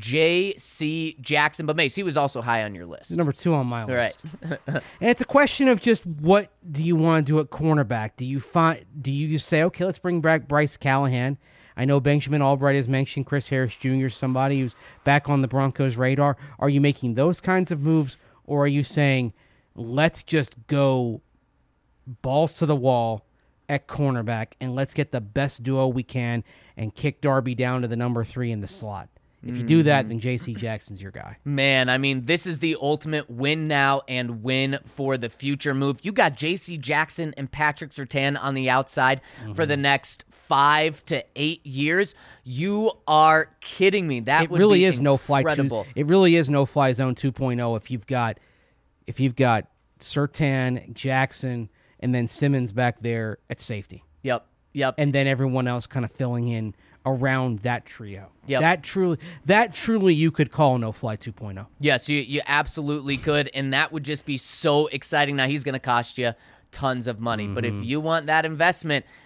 J C Jackson. But Mace, he was also high on your list. Number two on my All right. list. And it's a question of just what do you want to do at cornerback? Do you find? Do you just say, okay, let's bring back Bryce Callahan? I know Benjamin Albright has mentioned Chris Harris Junior, somebody who's back on the Broncos' radar. Are you making those kinds of moves, or are you saying, let's just go balls to the wall at cornerback and let's get the best duo we can and kick Darby down to the number three in the slot? If you do that, then J C Jackson's your guy. Man, I mean, this is the ultimate win now and win for the future move. You got J C Jackson and Patrick Surtain on the outside Mm-hmm. for the next five to eight years. You are kidding me. That It would really be is no fly. incredible. It really is no fly zone two point oh. If you've got, if you've got Surtain, Jackson, and then Simmons back there at safety, Yep, yep. and then everyone else kind of filling in around that trio. Yep. That truly, that truly, you could call no fly two point oh. Yes, you, you absolutely could, and that would just be so exciting. Now, he's going to cost you tons of money, but if you want that investment,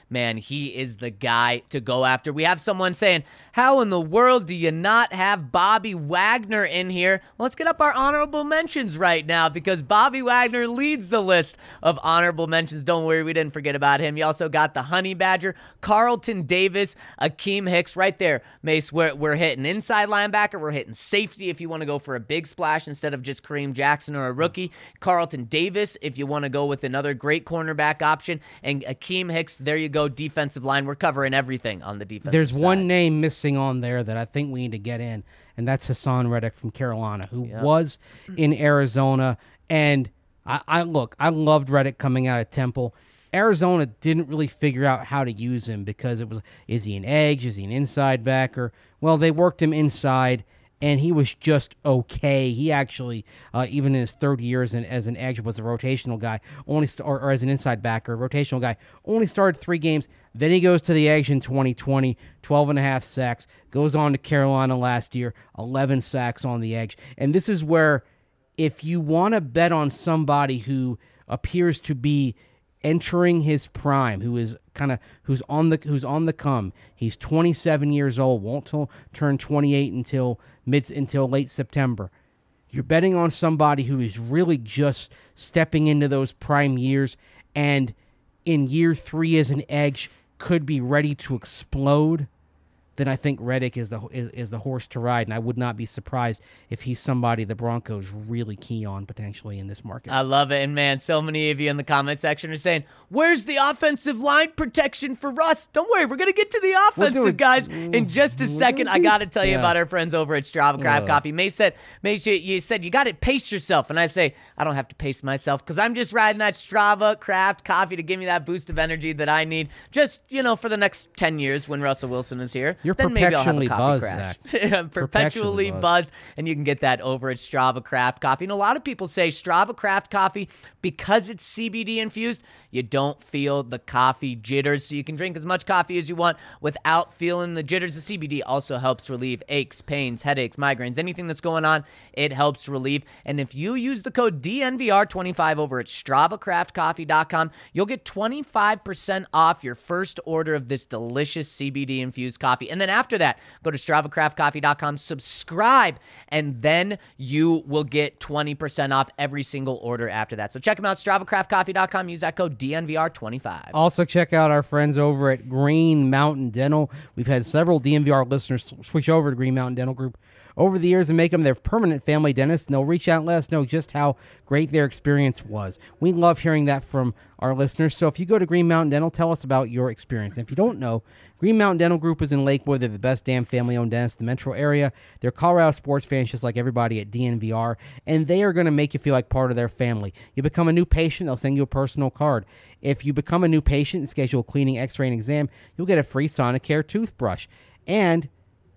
man, he is the guy to go after. We have someone saying, how in the world do you not have Bobby Wagner in here? Well, let's get up our honorable mentions right now because Bobby Wagner leads the list of honorable mentions. Don't worry, we didn't forget about him. You also got the Honey Badger, Carlton Davis, Akeem Hicks right there. Mace, we're, we're hitting inside linebacker. We're hitting safety if you want to go for a big splash instead of just Kareem Jackson or a rookie. Carlton Davis if you want to go with another great cornerback option. And Akeem Hicks, there you go, defensive line. We're covering everything on the defensive There's side. one name missing on there that I think we need to get in, and that's Hassan Reddick from Carolina, who Yep. was in Arizona. And I, I look, I loved Reddick coming out of Temple. Arizona didn't really figure out how to use him because it was, is he an edge? Is he an inside backer? Well, they worked him inside, and he was just okay. He actually, uh, even in his third year as an, as an edge, was a rotational guy, only st- or, or as an inside backer, rotational guy, only started three games. Then he goes to the edge in twenty twenty, twelve and a half sacks, goes on to Carolina last year, eleven sacks on the edge. And this is where, if you want to bet on somebody who appears to be entering his prime, who is kind of who's on the who's on the come. He's twenty-seven years old, won't t- turn twenty-eight until mid until late September. You're betting on somebody who is really just stepping into those prime years, and in year three as an edge could be ready to explode. Then I think Reddick is the is, is the horse to ride, and I would not be surprised if he's somebody the Broncos really key on potentially in this market. I love it. And, man, so many of you in the comment section are saying, where's the offensive line protection for Russ? Don't worry, we're going to get to the offensive doing- guys in just a second. I got to tell you Yeah. about our friends over at Strava Craft Yeah. Coffee. May said, May, you, you said you got to pace yourself. And I say, I don't have to pace myself because I'm just riding that Strava Craft Coffee to give me that boost of energy that I need just, you know, for the next ten years when Russell Wilson is here. You're then maybe I'll have a perpetually coffee buzzed, crash. Zach. I'm perpetually Perpetually buzzed. buzzed, and you can get that over at Strava Craft Coffee. And a lot of people say Strava Craft Coffee, because it's C B D infused, you don't feel the coffee jitters, so you can drink as much coffee as you want without feeling the jitters. The C B D also helps relieve aches, pains, headaches, migraines, anything that's going on, it helps relieve. And if you use the code D N V R twenty-five over at Strava Craft Coffee dot com, you'll get twenty-five percent off your first order of this delicious C B D infused coffee. And then after that, go to Strava Craft Coffee dot com, subscribe, and then you will get twenty percent off every single order after that. So check them out, Strava Craft Coffee dot com. Use that code D N V R twenty-five. Also, check out our friends over at Green Mountain Dental. We've had several D N V R listeners switch over to Green Mountain Dental Group over the years and make them their permanent family dentist, and they'll reach out and let us know just how great their experience was. We love hearing that from our listeners, so if you go to Green Mountain Dental, tell us about your experience. And if you don't know, Green Mountain Dental Group is in Lakewood. They're the best damn family-owned dentist in the metro area. They're Colorado sports fans just like everybody at D N V R, and they are going to make you feel like part of their family. You become a new patient, they'll send you a personal card. If you become a new patient and schedule a cleaning, x-ray, and exam, you'll get a free Sonicare toothbrush. And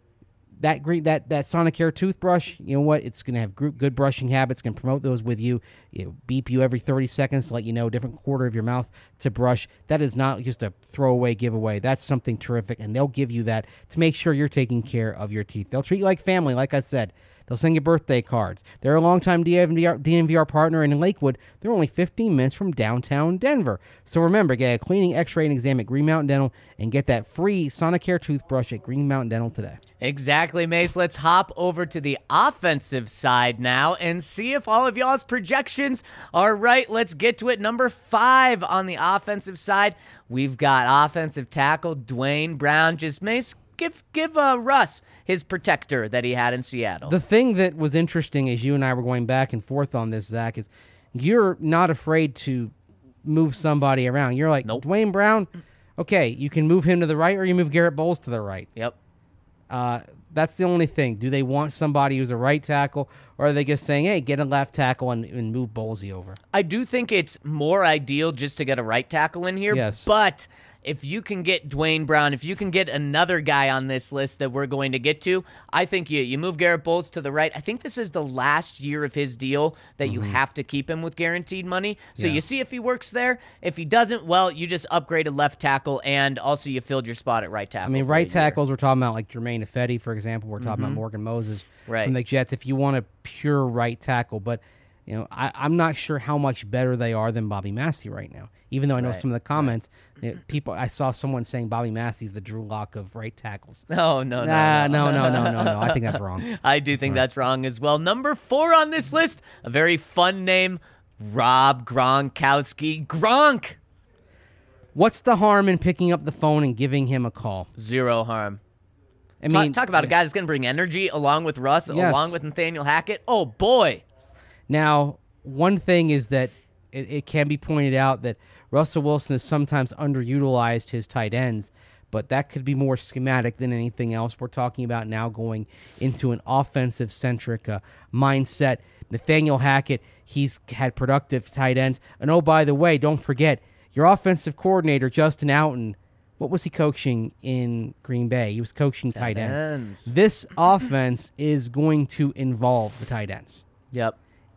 that green, that that Sonicare toothbrush, you know what? It's going to have group, good brushing habits. Going to promote those with you. It'll beep you every thirty seconds to let you know a different quarter of your mouth to brush. That is not just a throwaway giveaway. That's something terrific, and they'll give you that to make sure you're taking care of your teeth. They'll treat you like family, like I said. They'll send you birthday cards. They're a longtime D N V R, D N V R partner, and in Lakewood, they're only fifteen minutes from downtown Denver. So remember, get a cleaning, x-ray, and exam at Green Mountain Dental, and get that free Sonicare toothbrush at Green Mountain Dental today. Exactly, Mace. Let's hop over to the offensive side now and see if all of y'all's projections are right. Let's get to it. Number five on the offensive side, we've got offensive tackle Dwayne Brown. Just, Mace, give give uh, Russ his protector that he had in Seattle. The thing that was interesting as you and I were going back and forth on this, Zach, is you're not afraid to move somebody around. You're like, Nope. Dwayne Brown, okay, you can move him to the right or you move Garrett Bowles to the right. Yep. Uh, that's the only thing. Do they want somebody who's a right tackle, or are they just saying, hey, get a left tackle and, and move Bowlesy over? I do think it's more ideal just to get a right tackle in here. Yes. But if you can get Dwayne Brown, if you can get another guy on this list that we're going to get to, I think you you move Garrett Bowles to the right. I think this is the last year of his deal that you have to keep him with guaranteed money. So Yeah. you see if he works there. If he doesn't, well, you just upgraded left tackle, and also you filled your spot at right tackle. I mean, for a right year. tackles, we're talking about like Jermaine Ifedi, for example. We're talking about Morgan Moses Right. from the Jets. If you want a pure right tackle, but You know, I, I'm not sure how much better they are than Bobby Massey right now. Even though I know Right, some of the comments, you know, people, I saw someone saying Bobby Massey's the Drew Lock of right tackles. No, no, Nah, no, no, no, no, no, no. I think that's wrong. I do think that's wrong as well. Number four on this list, a very fun name, Rob Gronkowski. Gronk. What's the harm in picking up the phone and giving him a call? Zero harm. I Talk, mean, talk about a guy that's going to bring energy along with Russ, Yes. along with Nathaniel Hackett. Oh, boy. Now, one thing is that it, it can be pointed out that Russell Wilson has sometimes underutilized his tight ends, but that could be more schematic than anything else. We're talking about now going into an offensive-centric uh, mindset. Nathaniel Hackett, he's had productive tight ends. And oh, by the way, don't forget, your offensive coordinator, Justin Outten, what was he coaching in Green Bay? He was coaching tight, Tight ends. ends. This offense is going to involve the tight ends. Yep.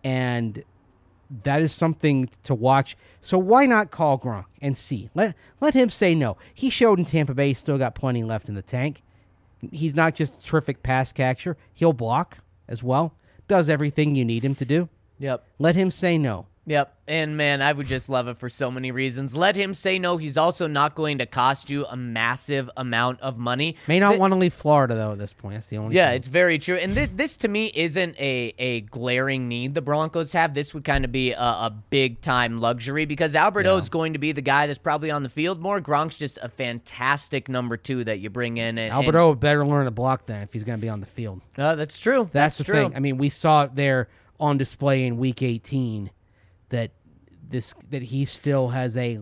And that is something to watch. So why not call Gronk and see? Let let him say no. He showed in Tampa Bay he's still got plenty left in the tank. He's not just a terrific pass catcher. He'll block as well. Does everything you need him to do. Yep. Let him say no. Yep. And, man, I would just love it for so many reasons. Let him say no. He's also not going to cost you a massive amount of money. May not Th- want to leave Florida, though, at this point. That's the only Yeah, thing. it's very true. And th- this, to me, isn't a, a glaring need the Broncos have. This would kind of be a, a big-time luxury because Alberto is going to be the guy that's probably on the field more. Gronk's just a fantastic number two that you bring in. And, Alberto would better learn to block then if he's going to be on the field. And, uh, that's true. That's, That's, the true. thing. I mean, we saw it there on display in Week eighteen that this that he still has a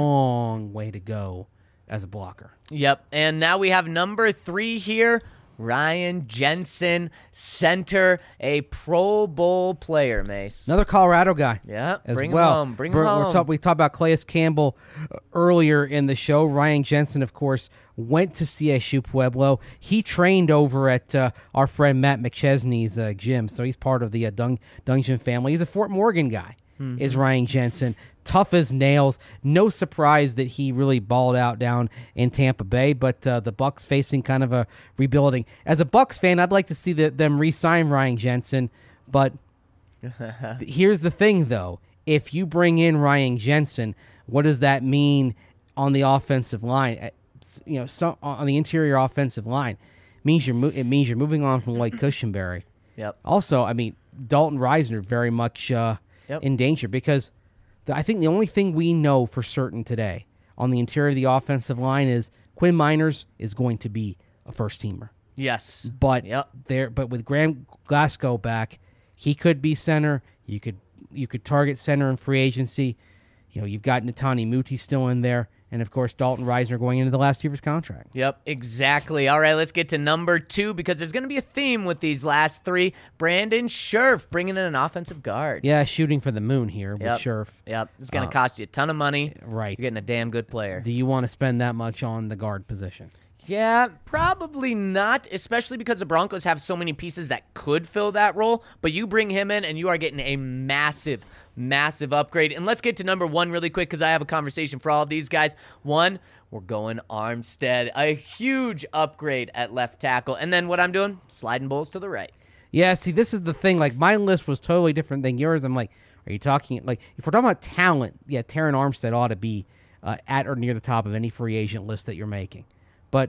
long way to go as a blocker. Yep. And now we have number three here, Ryan Jensen, center, a Pro Bowl player, Mace. Another Colorado guy. Yeah, as bring him well. home, bring him We're- we're home. talk- we talked about Calais Campbell uh, earlier in the show. Ryan Jensen, of course, went to C S U Pueblo. He trained over at uh, our friend Matt McChesney's uh, gym, so he's part of the uh, Dung- Dungeon family. He's a Fort Morgan guy, Mm-hmm. is Ryan Jensen. Tough as nails. No surprise that he really balled out down in Tampa Bay, but uh, the Bucs facing kind of a rebuilding. As a Bucs fan, I'd like to see the, them re-sign Ryan Jensen, but here's the thing, though. If you bring in Ryan Jensen, what does that mean on the offensive line? Uh, You know, so, on the interior offensive line, it means you're mo- it means you're moving on from Lloyd Cushenberry. Yep. Also, I mean, Dalton Reisner very much uh, Yep. in danger because the, I think the only thing we know for certain today on the interior of the offensive line is Quinn Miners is going to be a first teamer. Yes. But Yep. there, but with Graham Glasgow back, he could be center. You could you could target center in free agency. You know, you've got Netani Muti still in there, and of course Dalton Reisner going into the last year of his contract. Yep, exactly. All right, let's get to number two because there's going to be a theme with these last three. Brandon Scherf bringing in an offensive guard. Yeah, shooting for the moon here with Yep. Scherf. Yep, it's going to Uh, cost you a ton of money. Right. You're getting a damn good player. Do you want to spend that much on the guard position? Yeah, probably not, especially because the Broncos have so many pieces that could fill that role. But you bring him in, and you are getting a massive, massive upgrade. And let's get to number one really quick because I have a conversation for all of these guys. One, we're going Armstead, a huge upgrade at left tackle. And then what I'm doing, sliding Bowles to the right. Yeah, see, this is the thing. Like, my list was totally different than yours. I'm like, are you talking, like, if we're talking about talent, yeah, Taron Armstead ought to be uh, at or near the top of any free agent list that you're making. But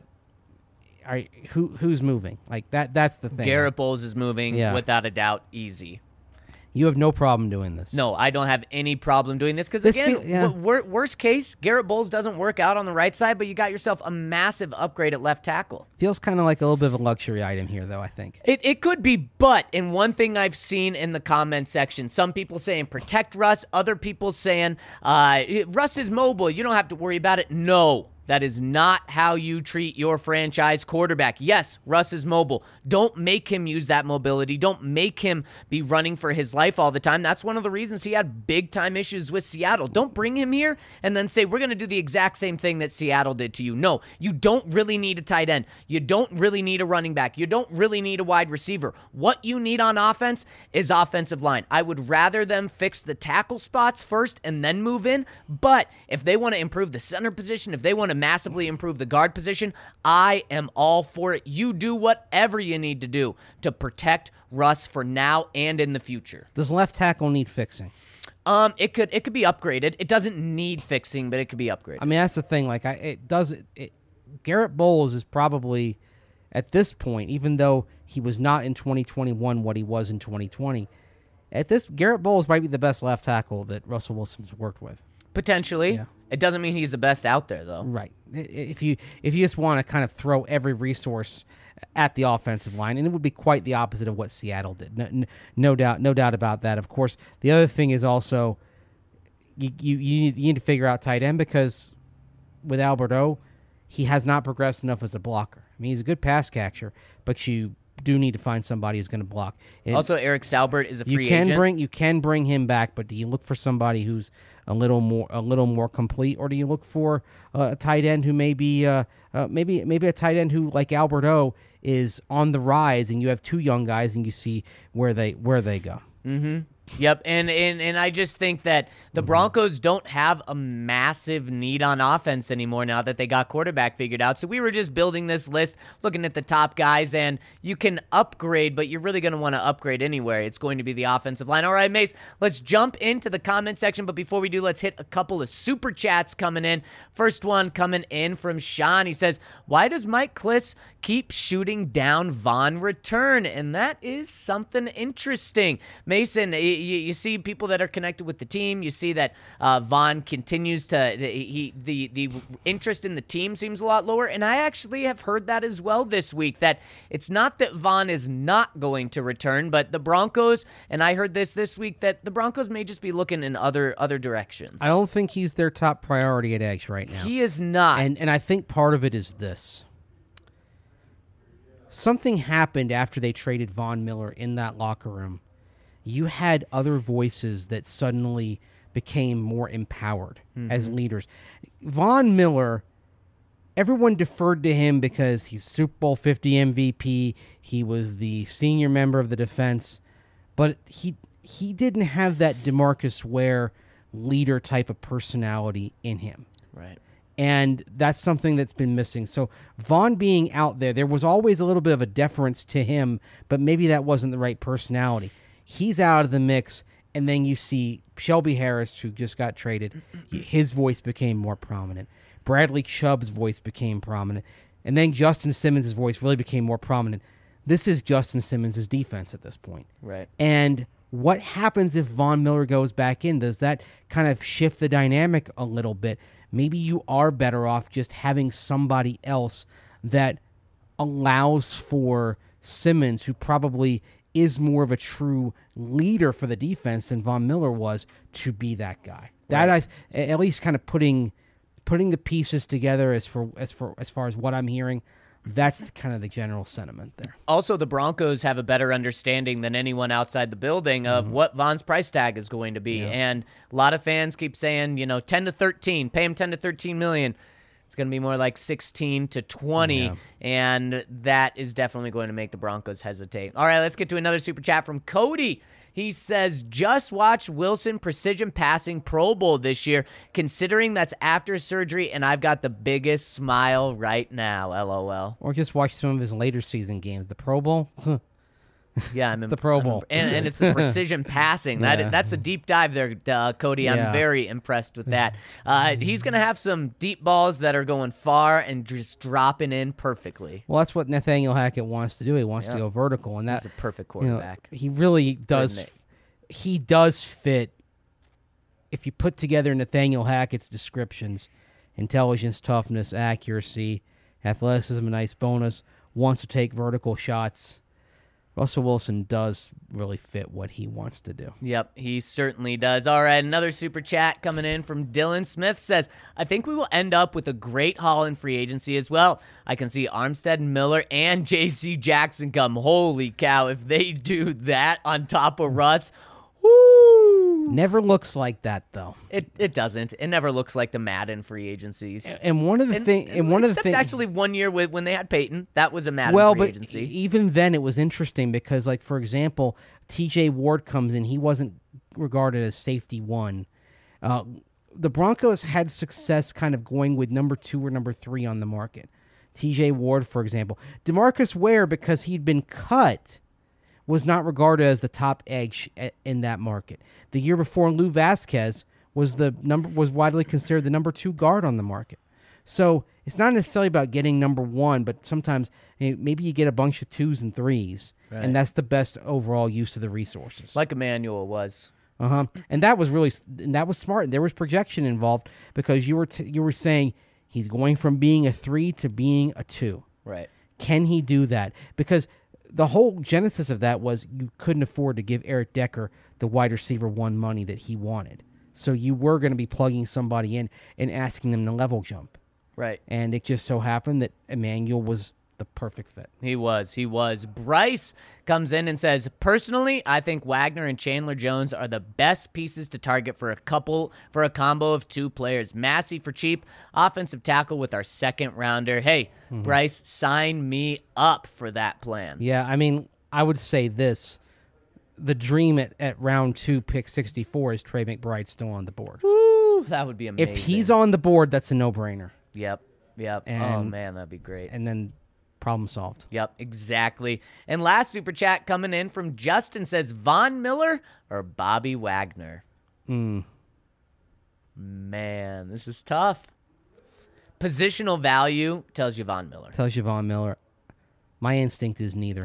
are, who who's moving? Like, that that's the thing. Garrett Bowles is moving Yeah. without a doubt, easy. You have no problem doing this. No, I don't have any problem doing this because, This again, feel- yeah. w- wor- worst case, Garrett Bowles doesn't work out on the right side, but you got yourself a massive upgrade at left tackle. Feels kind of like a little bit of a luxury item here, though, I think. It it could be, but in one thing I've seen in the comment section, some people saying protect Russ, other people saying uh, Russ is mobile, you don't have to worry about it. No. That is not how you treat your franchise quarterback. Yes, Russ is mobile. Don't make him use that mobility. Don't make him be running for his life all the time. That's one of the reasons he had big-time issues with Seattle. Don't bring him here and then say, we're going to do the exact same thing that Seattle did to you. No, you don't really need a tight end. You don't really need a running back. You don't really need a wide receiver. What you need on offense is offensive line. I would rather them fix the tackle spots first and then move in, but if they want to improve the center position, if they want to massively improve the guard position, I am all for it. You do whatever you need to do to protect Russ for now and in the future. Does left tackle need fixing? Um, it could it could be upgraded. It doesn't need fixing, but it could be upgraded. I mean, that's the thing. Like, I it does it, it. Garrett Bowles is probably at this point, even though he was not in twenty twenty-one what he was in twenty twenty. At this, Garrett Bowles might be the best left tackle that Russell Wilson's worked with. Potentially. Yeah. It doesn't mean he's the best out there, though. Right. If you if you just want to kind of throw every resource at the offensive line, and it would be quite the opposite of what Seattle did. No, no doubt, no doubt about that. Of course, the other thing is also you you, you, need, you need to figure out tight end, because with Alberto, he has not progressed enough as a blocker. I mean, he's a good pass catcher, but you do need to find somebody who's going to block. And also, Eric Salbert is a free you can agent. Bring, you can bring him back, but do you look for somebody who's a little more a little more complete, or do you look for uh, a tight end who may be uh, uh, maybe maybe a tight end who, like Alberto, is on the rise, and you have two young guys, and you see where they where they go. Mm-hmm. Yep, and, and and I just think that the Broncos don't have a massive need on offense anymore now that they got quarterback figured out. So we were just building this list, looking at the top guys, and you can upgrade, but you're really going to want to upgrade anywhere. It's going to be the offensive line. All right, Mace, let's jump into the comment section, but before we do, let's hit a couple of super chats coming in. First one coming in from Sean. He says, why does Mike Klis keep shooting down Von return? And that is something interesting. Mason, You, you see people that are connected with the team. You see that uh, Von continues to he the the interest in the team seems a lot lower. And I actually have heard that as well this week, that it's not that Von is not going to return, but the Broncos, and I heard this this week, that the Broncos may just be looking in other other directions. I don't think he's their top priority at Eggs right now. He is not. And and I think part of it is this. Something happened after they traded Von Miller in that locker room. You had other voices that suddenly became more empowered mm-hmm. as leaders. Von Miller, everyone deferred to him because he's Super Bowl fifty M V P. He was the senior member of the defense. But he he didn't have that DeMarcus Ware leader type of personality in him. Right. And that's something that's been missing. So Von being out there, there was always a little bit of a deference to him, but maybe that wasn't the right personality. He's out of the mix, and then you see Shelby Harris, who just got traded. His voice became more prominent. Bradley Chubb's voice became prominent. And then Justin Simmons' voice really became more prominent. This is Justin Simmons' defense at this point. Right. And what happens if Von Miller goes back in? Does that kind of shift the dynamic a little bit? Maybe you are better off just having somebody else that allows for Simmons, who probably is more of a true leader for the defense than Von Miller was, to be that guy. That Right. I at least kind of putting putting the pieces together as for as for as far as what I'm hearing. That's kind of the general sentiment there. Also, the Broncos have a better understanding than anyone outside the building of mm-hmm. what Von's price tag is going to be. Yeah. And a lot of fans keep saying, you know, ten to thirteen, pay him ten to thirteen million. It's going to be more like sixteen to twenty, Yeah. and that is definitely going to make the Broncos hesitate. All right, let's get to another super chat from Cody. He says, just watch Wilson precision passing Pro Bowl this year, considering that's after surgery, and I've got the biggest smile right now, LOL. Or just watch some of his later season games. The Pro Bowl? Yeah, I'm it's in, the Pro I'm Bowl. in, and, and it's the precision passing. That Yeah. That's a deep dive there, uh, Cody. I'm Yeah. very impressed with that. Uh, he's going to have some deep balls that are going far and just dropping in perfectly. Well, that's what Nathaniel Hackett wants to do. He wants Yeah. to go vertical, and He's that a perfect you know, quarterback. he really does. Couldn't He does fit. If you put together Nathaniel Hackett's descriptions: intelligence, toughness, accuracy, athleticism, a nice bonus, wants to take vertical shots. Russell Wilson does really fit what he wants to do. Yep, he certainly does. All right, another super chat coming in from Dylan Smith says, I think we will end up with a great haul in free agency as well. I can see Armstead, Miller, and J C Jackson come. Holy cow, if they do that on top of Russ, woo! Never looks like that, though. It it doesn't. It never looks like the Madden free agencies. And one of the And- things, and one of the except things, actually one year with, when they had Peyton, that was a Madden well, free but agency. even then, it was interesting because, like, for example, T J Ward comes in. He wasn't regarded as safety one. Uh, the Broncos had success kind of going with number two or number three on the market. T J Ward, for example. DeMarcus Ware, because he'd been cut, was not regarded as the top edge in that market. The year before, Lou Vasquez was the number was widely considered the number two guard on the market. So it's not necessarily about getting number one, but sometimes maybe you get a bunch of twos and threes, right. And that's the best overall use of the resources. Like Emmanuel was. Uh huh. And that was really and that was smart. There was projection involved because you were t- you were saying he's going from being a three to being a two. Right. Can he do that? Because the whole genesis of that was you couldn't afford to give Eric Decker the wide receiver one money that he wanted. So you were going to be plugging somebody in and asking them to level jump. Right. And it just so happened that Emmanuel was the perfect fit. He was. He was. Bryce comes in and says, personally, I think Wagner and Chandler Jones are the best pieces to target for a couple, for a combo of two players. Massey for cheap, offensive tackle with our second rounder. Hey, mm-hmm. Bryce, sign me up for that plan. Yeah, I mean, I would say this. The dream at, at round two, pick sixty-four, is Trey McBride still on the board. Woo, that would be amazing. If he's on the board, that's a no-brainer. Yep, yep. And, oh, man, that'd be great. And then problem solved. Yep, exactly. And last super chat coming in from Justin says, Von Miller or Bobby Wagner? Mm. Man, this is tough. Positional value tells you Von Miller. Tells you Von Miller. My instinct is neither.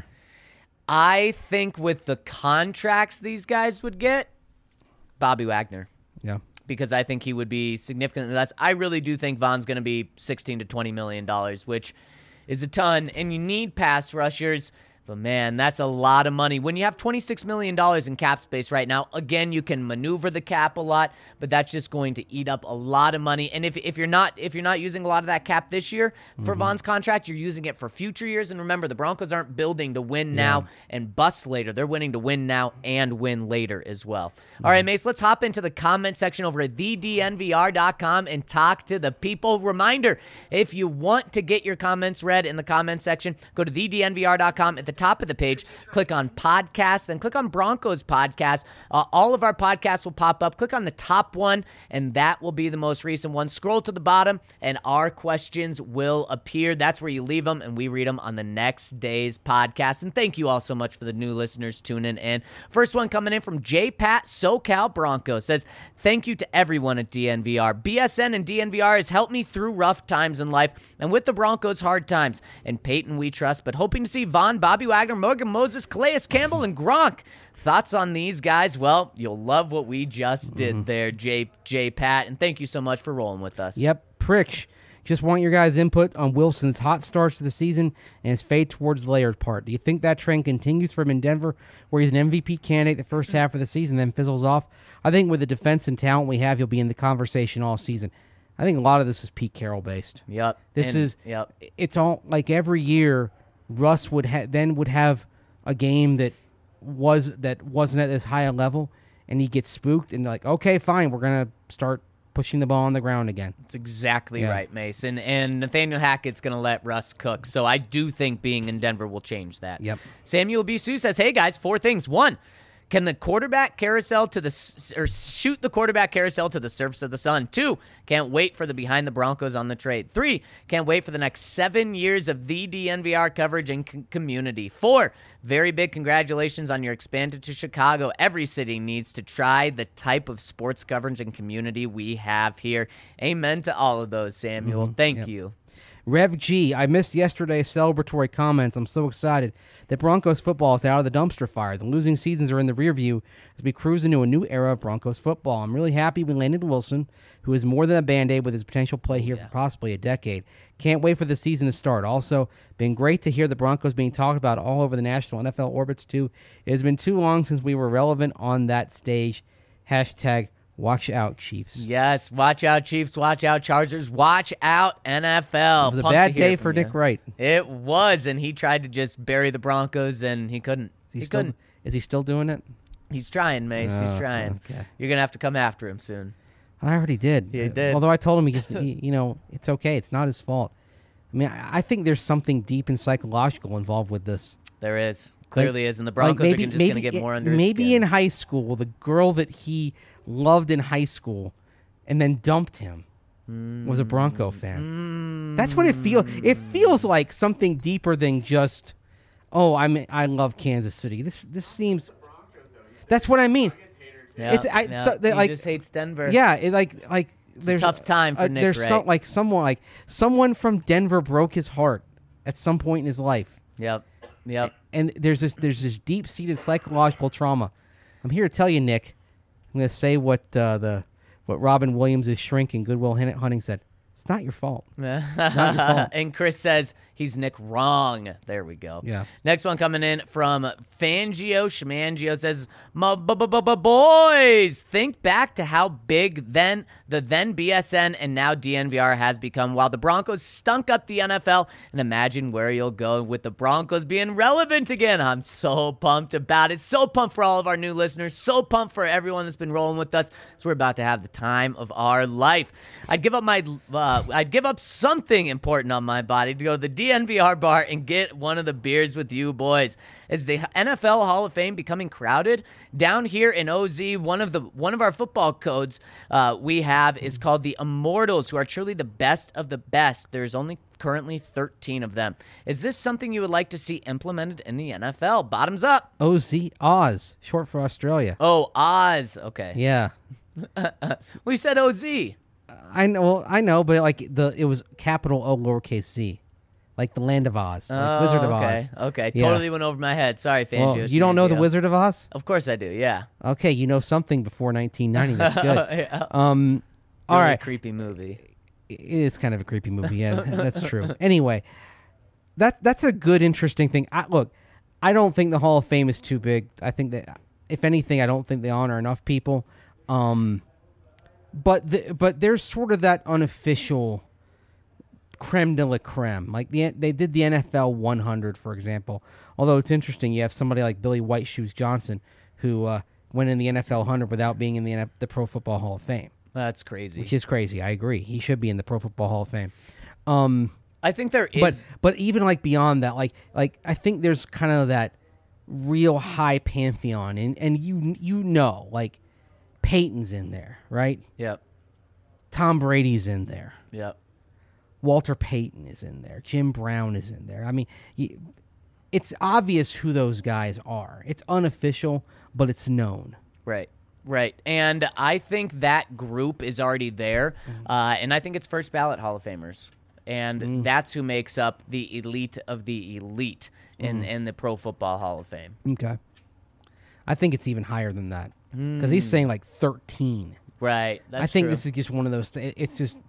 I think with the contracts these guys would get, Bobby Wagner. Yeah. Because I think he would be significantly less. I really do think Von's going to be sixteen to twenty million dollars, which is a ton, and you need pass rushers. But, man, that's a lot of money. When you have twenty-six million dollars in cap space right now, again, you can maneuver the cap a lot, but that's just going to eat up a lot of money. And if if you're not if you're not using a lot of that cap this year for mm-hmm. Von's contract, you're using it for future years. And remember, the Broncos aren't building to win now yeah. and bust later. They're winning to win now and win later as well. Mm-hmm. All right, Mace, let's hop into the comment section over at the d n v r dot com and talk to the people. Reminder, if you want to get your comments read in the comment section, go to the d n v r dot com. At the top of the page, click on podcast, then click on Broncos podcast. Uh, all of our podcasts will pop up. Click on the top one, and that will be the most recent one. Scroll to the bottom, and our questions will appear. That's where you leave them, and we read them on the next day's podcast. And thank you all so much for the new listeners tuning in. First one coming in from J Pat SoCal Bronco says, thank you to everyone at D N V R. B S N and D N V R has helped me through rough times in life and with the Broncos' hard times. And Peyton we trust, but hoping to see Von, Bobby Wagner, Morgan Moses, Calais Campbell, and Gronk. Thoughts on these guys? Well, you'll love what we just did mm-hmm. there, J, J Pat, and thank you so much for rolling with us. Yep, Pritch. Just want your guys' input on Wilson's hot starts to the season and his fade towards the Laird part. Do you think that trend continues from in Denver, where he's an M V P candidate the first half of the season, then fizzles off? I think with the defense and talent we have, he'll be in the conversation all season. I think a lot of this is Pete Carroll based. Yep. This and, is. Yep. It's all like every year. Russ would ha- then would have a game that was that wasn't at as high a level, and he gets spooked and like, okay, fine, we're gonna start pushing the ball on the ground again. That's exactly yeah. right, Mason. And Nathaniel Hackett's going to let Russ cook. So I do think being in Denver will change that. Yep. Samuel Bisou says, hey, guys, four things. One, can the quarterback carousel to the or shoot the quarterback carousel to the surface of the sun? Two, can't wait for the behind the Broncos on the trade. Three, can't wait for the next seven years of the D N V R coverage and c- community. Four, very big congratulations on your expansion to Chicago. Every city needs to try the type of sports coverage and community we have here. Amen to all of those, Samuel. Mm-hmm. Thank yep. you. Rev G, I missed yesterday's celebratory comments. I'm so excited that Broncos football is out of the dumpster fire. The losing seasons are in the rear view as we cruise into a new era of Broncos football. I'm really happy we landed Wilson, who is more than a Band-Aid with his potential play here yeah. for possibly a decade. Can't wait for the season to start. Also, been great to hear the Broncos being talked about all over the national N F L orbits, too. It has been too long since we were relevant on that stage. Hashtag watch out, Chiefs. Yes, watch out, Chiefs. Watch out, Chargers. Watch out, N F L. It was a Pumped bad day for you. Nick Wright. It was, and he tried to just bury the Broncos, and he couldn't. Is he, he still, couldn't. Is he still doing it? He's trying, Mace. Oh, He's trying. Okay. You're going to have to come after him soon. I already did. You did. Although I told him, he just, he, you know, it's okay. It's not his fault. I mean, I, I think there's something deep and psychological involved with this. There is. Clearly like, is. And the Broncos like maybe, are just going to get more under his Maybe skin. in high school, the girl that he loved in high school and then dumped him was a Bronco fan. Mm. That's what it feels. It feels like something deeper than just, oh, I'm I love Kansas City. This this seems. That's what I mean. Yeah, It's I, yeah. so, they, he like just hates Denver. yeah, it, like like there's a tough time for uh, Nick There's Wright. some, like someone like someone from Denver broke his heart at some point in his life, Yep. Yep. and there's this there's this deep seated psychological trauma. I'm here to tell you, Nick. I'm going to say what uh, the what Robin Williams' shrink in Good Will Hunting said. It's not your fault. Not your fault. And Chris says he's Nick wrong. There we go. Yeah. Next one coming in from Fangio. Schmangio says, "My bu- bu- bu- bu- boys, think back to how big then the then B S N and now D N V R has become while the Broncos stunk up the N F L, and imagine where you'll go with the Broncos being relevant again." I'm so pumped about it. So pumped for all of our new listeners. So pumped for everyone that's been rolling with us. So we're about to have the time of our life. I'd give up my... Uh, I'd give up something important on my body to go to the D N V R bar and get one of the beers with you boys. Is the N F L Hall of Fame becoming crowded? Down here in O Z, one of the one of our football codes uh, we have is called the Immortals, who are truly the best of the best. There's only currently thirteen of them. Is this something you would like to see implemented in the N F L? Bottoms up. O Z, Oz, short for Australia. Oh, Oz. Okay. Yeah. We said O Z. I know, well, I know, but like the it was capital O lowercase z, like the Land of Oz, like Oh, Wizard of okay. Oz. Okay. Yeah. Totally went over my head. Sorry, Fangio. Well, you don't know the Schmangio. Wizard of Oz? Of course I do. Yeah. Okay, you know something before nineteen ninety. That's good. Yeah. Um, all Really right, creepy movie. it is kind of a creepy movie. Yeah, that's true. Anyway, that that's a good, interesting thing. I, look, I don't think the Hall of Fame is too big. I think that, if anything, I don't think they honor enough people. Um, but the, but there's sort of that unofficial creme de la creme. Like the they did the N F L one hundred, for example. Although it's interesting, you have somebody like Billy White Shoes Johnson who uh, went in the N F L one hundred without being in the N F- the Pro Football Hall of Fame. That's crazy. Which is crazy. I agree. He should be in the Pro Football Hall of Fame. Um, I think there is. but but even like beyond that, like like I think there's kind of that real high pantheon, and and you you know like Peyton's in there, right? Yep. Tom Brady's in there. Yep. Walter Payton is in there. Jim Brown is in there. I mean, you, it's obvious who those guys are. It's unofficial, but it's known. Right. Right. And I think that group is already there. Mm-hmm. Uh, and I think it's first ballot Hall of Famers. And Mm. that's who makes up the elite of the elite in, Mm. in the Pro Football Hall of Fame. Okay. I think it's even higher than that because Hmm. he's saying like thirteen. Right. That's I think true. this is just one of those. Th- it's just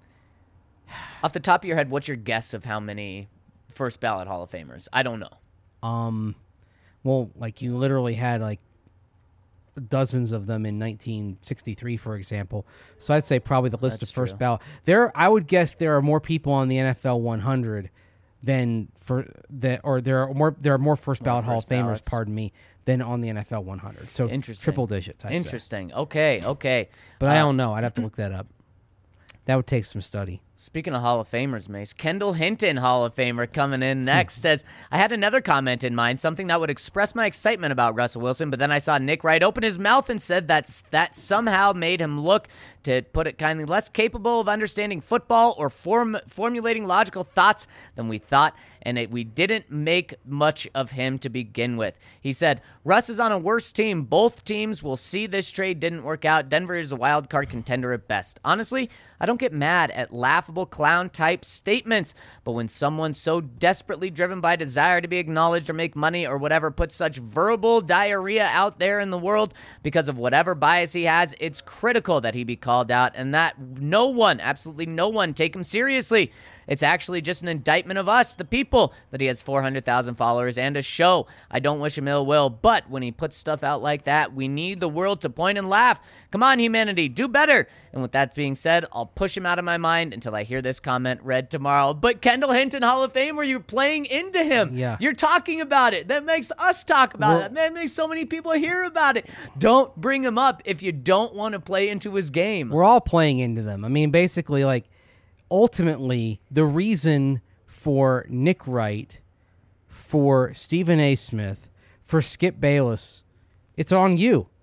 Off the top of your head, what's your guess of how many first ballot Hall of Famers? I don't know. um, well, like you literally had like dozens of them in nineteen sixty-three, for example. So I'd say probably the list That's of first true. ballot. There, I would guess there are more people on the N F L one hundred than for that, or there are more. There are more first ballot Hall of first Famers. ballots. Pardon me, than on the N F L one hundred. So Interesting. triple digits. I'd say. Interesting. Okay. Okay. But I Uh, don't know. I'd have to look that up. That would take some study. Speaking of Hall of Famers, Mace, Kendall Hinton, Hall of Famer, coming in next, says, I had another comment in mind, something that would express my excitement about Russell Wilson, but then I saw Nick Wright open his mouth and said that that somehow made him look, to put it kindly, less capable of understanding football or form, formulating logical thoughts than we thought, and it, we didn't make much of him to begin with. He said, Russ is on a worse team. Both teams will see this trade didn't work out. Denver is a wild card contender at best. Honestly, I don't get mad at laughable clown-type statements, but when someone so desperately driven by desire to be acknowledged or make money or whatever puts such verbal diarrhea out there in the world because of whatever bias he has, it's critical that he be called out and that no one, absolutely no one, take him seriously. It's actually just an indictment of us, the people, that he has four hundred thousand followers and a show. I don't wish him ill will, but when he puts stuff out like that, we need the world to point and laugh. Come on, humanity, do better. And with that being said, I'll push him out of my mind until I hear this comment read tomorrow. But Kendall Hinton, Hall of Fame, where you're playing into him. Yeah. You're talking about it. That makes us talk about Well- it. That makes so many people hear about it. Don't bring him up if you don't want to play into his game. We're all playing into them. I mean, basically, like, ultimately, the reason for Nick Wright, for Stephen A. Smith, for Skip Bayless, it's on you.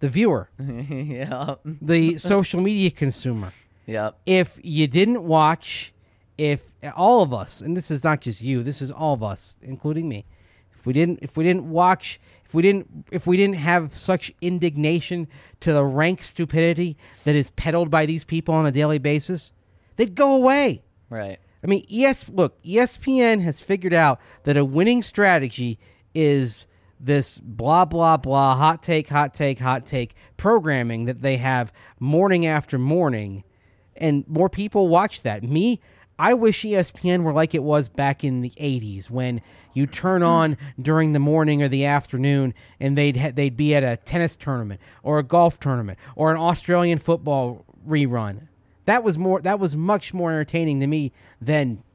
the viewer, yeah. the social media consumer. Yep. If you didn't watch, if all of us, and this is not just you, this is all of us, including me, if we didn't, if we didn't watch, if we didn't, if we didn't have such indignation to the rank stupidity that is peddled by these people on a daily basis, they'd go away. Right. I mean, E S look, E S P N has figured out that a winning strategy is this blah, blah, blah, hot take, hot take, hot take programming that they have morning after morning, and more people watch that. Me, I wish E S P N were like it was back in the eighties when you turn on during the morning or the afternoon and they'd ha- they'd be at a tennis tournament or a golf tournament or an Australian football rerun. That was more. That was much more entertaining to me than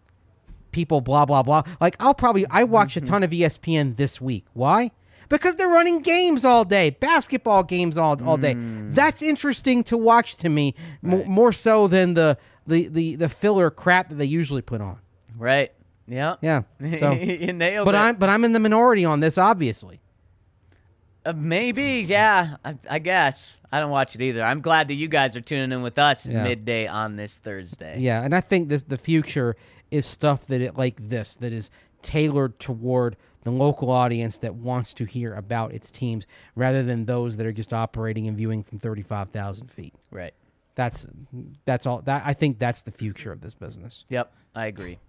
people blah, blah, blah. Like, I'll probably, I watch a ton of E S P N this week. Why? Because they're running games all day, basketball games all all day. Mm. That's interesting to watch to me, right. m- more so than the, the, the, the filler crap that they usually put on. Right. Yeah. Yeah. So, you nailed but it. I'm, but I'm in the minority on this, obviously. Uh, maybe, yeah, I, I guess. I don't watch it either. I'm glad that you guys are tuning in with us yeah. midday on this Thursday. Yeah, and I think this the future is stuff that it like this that is tailored toward the local audience that wants to hear about its teams rather than those that are just operating and viewing from thirty-five thousand feet. Right. That's that's all. That I think that's the future of this business. Yep, I agree.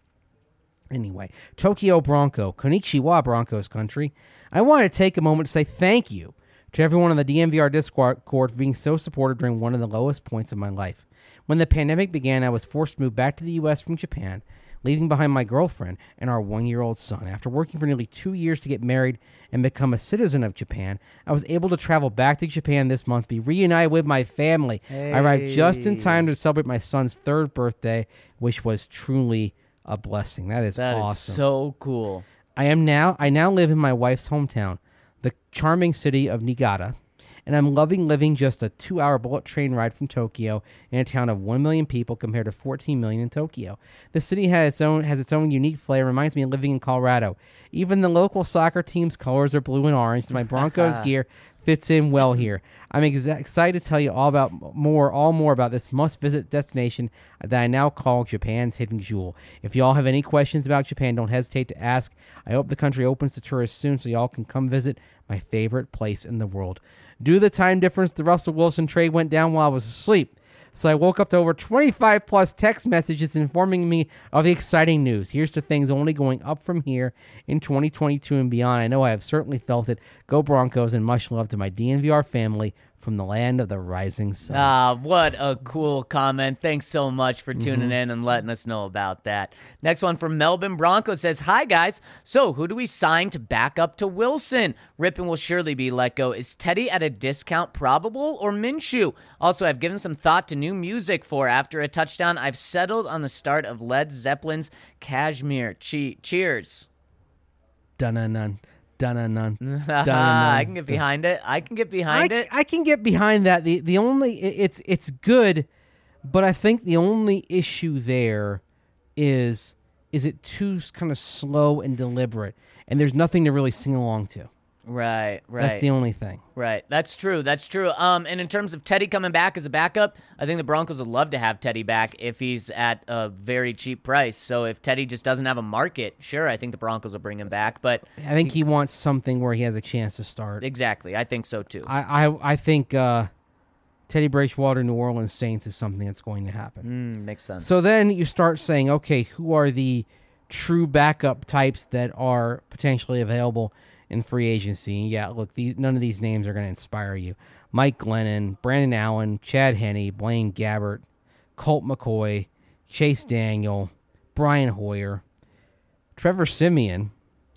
Anyway, Tokyo Bronco, Konnichiwa Broncos country. I want to take a moment to say thank you to everyone on the D N V R Discord for being so supportive during one of the lowest points of my life. When the pandemic began, I was forced to move back to the U S from Japan, leaving behind my girlfriend and our one-year-old son. After working for nearly two years to get married and become a citizen of Japan, I was able to travel back to Japan this month, be reunited with my family. Hey. I arrived just in time to celebrate my son's third birthday, which was truly a blessing. That is that awesome. Is so cool. I am now I now live in my wife's hometown, the charming city of Niigata, and I'm loving living just a two-hour bullet train ride from Tokyo in a town of one million people compared to fourteen million in Tokyo. The city has its own has its own unique flair. Reminds me of living in Colorado. Even the local soccer team's colors are blue and orange, so my Broncos gear fits in well here. I'm ex- excited to tell you all about more, all more about this must-visit destination that I now call Japan's hidden jewel. If y'all have any questions about Japan, don't hesitate to ask. I hope the country opens to tourists soon so y'all can come visit my favorite place in the world. Due to the time difference, the Russell Wilson trade went down while I was asleep. So I woke up to over twenty-five plus text messages informing me of the exciting news. Here's to things only going up from here in twenty twenty-two and beyond. I know I have certainly felt it. Go Broncos, and much love to my D N V R family from the land of the rising sun. Ah, what a cool comment. Thanks so much for tuning mm-hmm. in and letting us know about that. Next one from Melbourne Bronco says, hi, guys. So who do we sign to back up to Wilson? Rippon will surely be let go. Is Teddy at a discount probable or Minshew? Also, I've given some thought to new music for after a touchdown. I've settled on the start of Led Zeppelin's Kashmir. Che- cheers. Dun-dun-dun. Dun-dun-dun. Dun-dun-dun. I can get behind it. I can get behind I, it. I can get behind that. The the only it's it's good, but I think the only issue there is is it too kind of slow and deliberate, and there's nothing to really sing along to. Right, right. That's the only thing. Right. That's true. That's true. Um, and in terms of Teddy coming back as a backup, I think the Broncos would love to have Teddy back if he's at a very cheap price. So if Teddy just doesn't have a market, sure, I think the Broncos will bring him back. But I think he, he wants something where he has a chance to start. Exactly. I think so too. I I, I think uh, Teddy Bridgewater, New Orleans Saints is something that's going to happen. Mm, makes sense. So then you start saying, okay, who are the true backup types that are potentially available in free agency? Yeah, look, these, none of these names are going to inspire you. Mike Glennon, Brandon Allen, Chad Henne, Blaine Gabbert, Colt McCoy, Chase Daniel, Brian Hoyer, Trevor Siemian,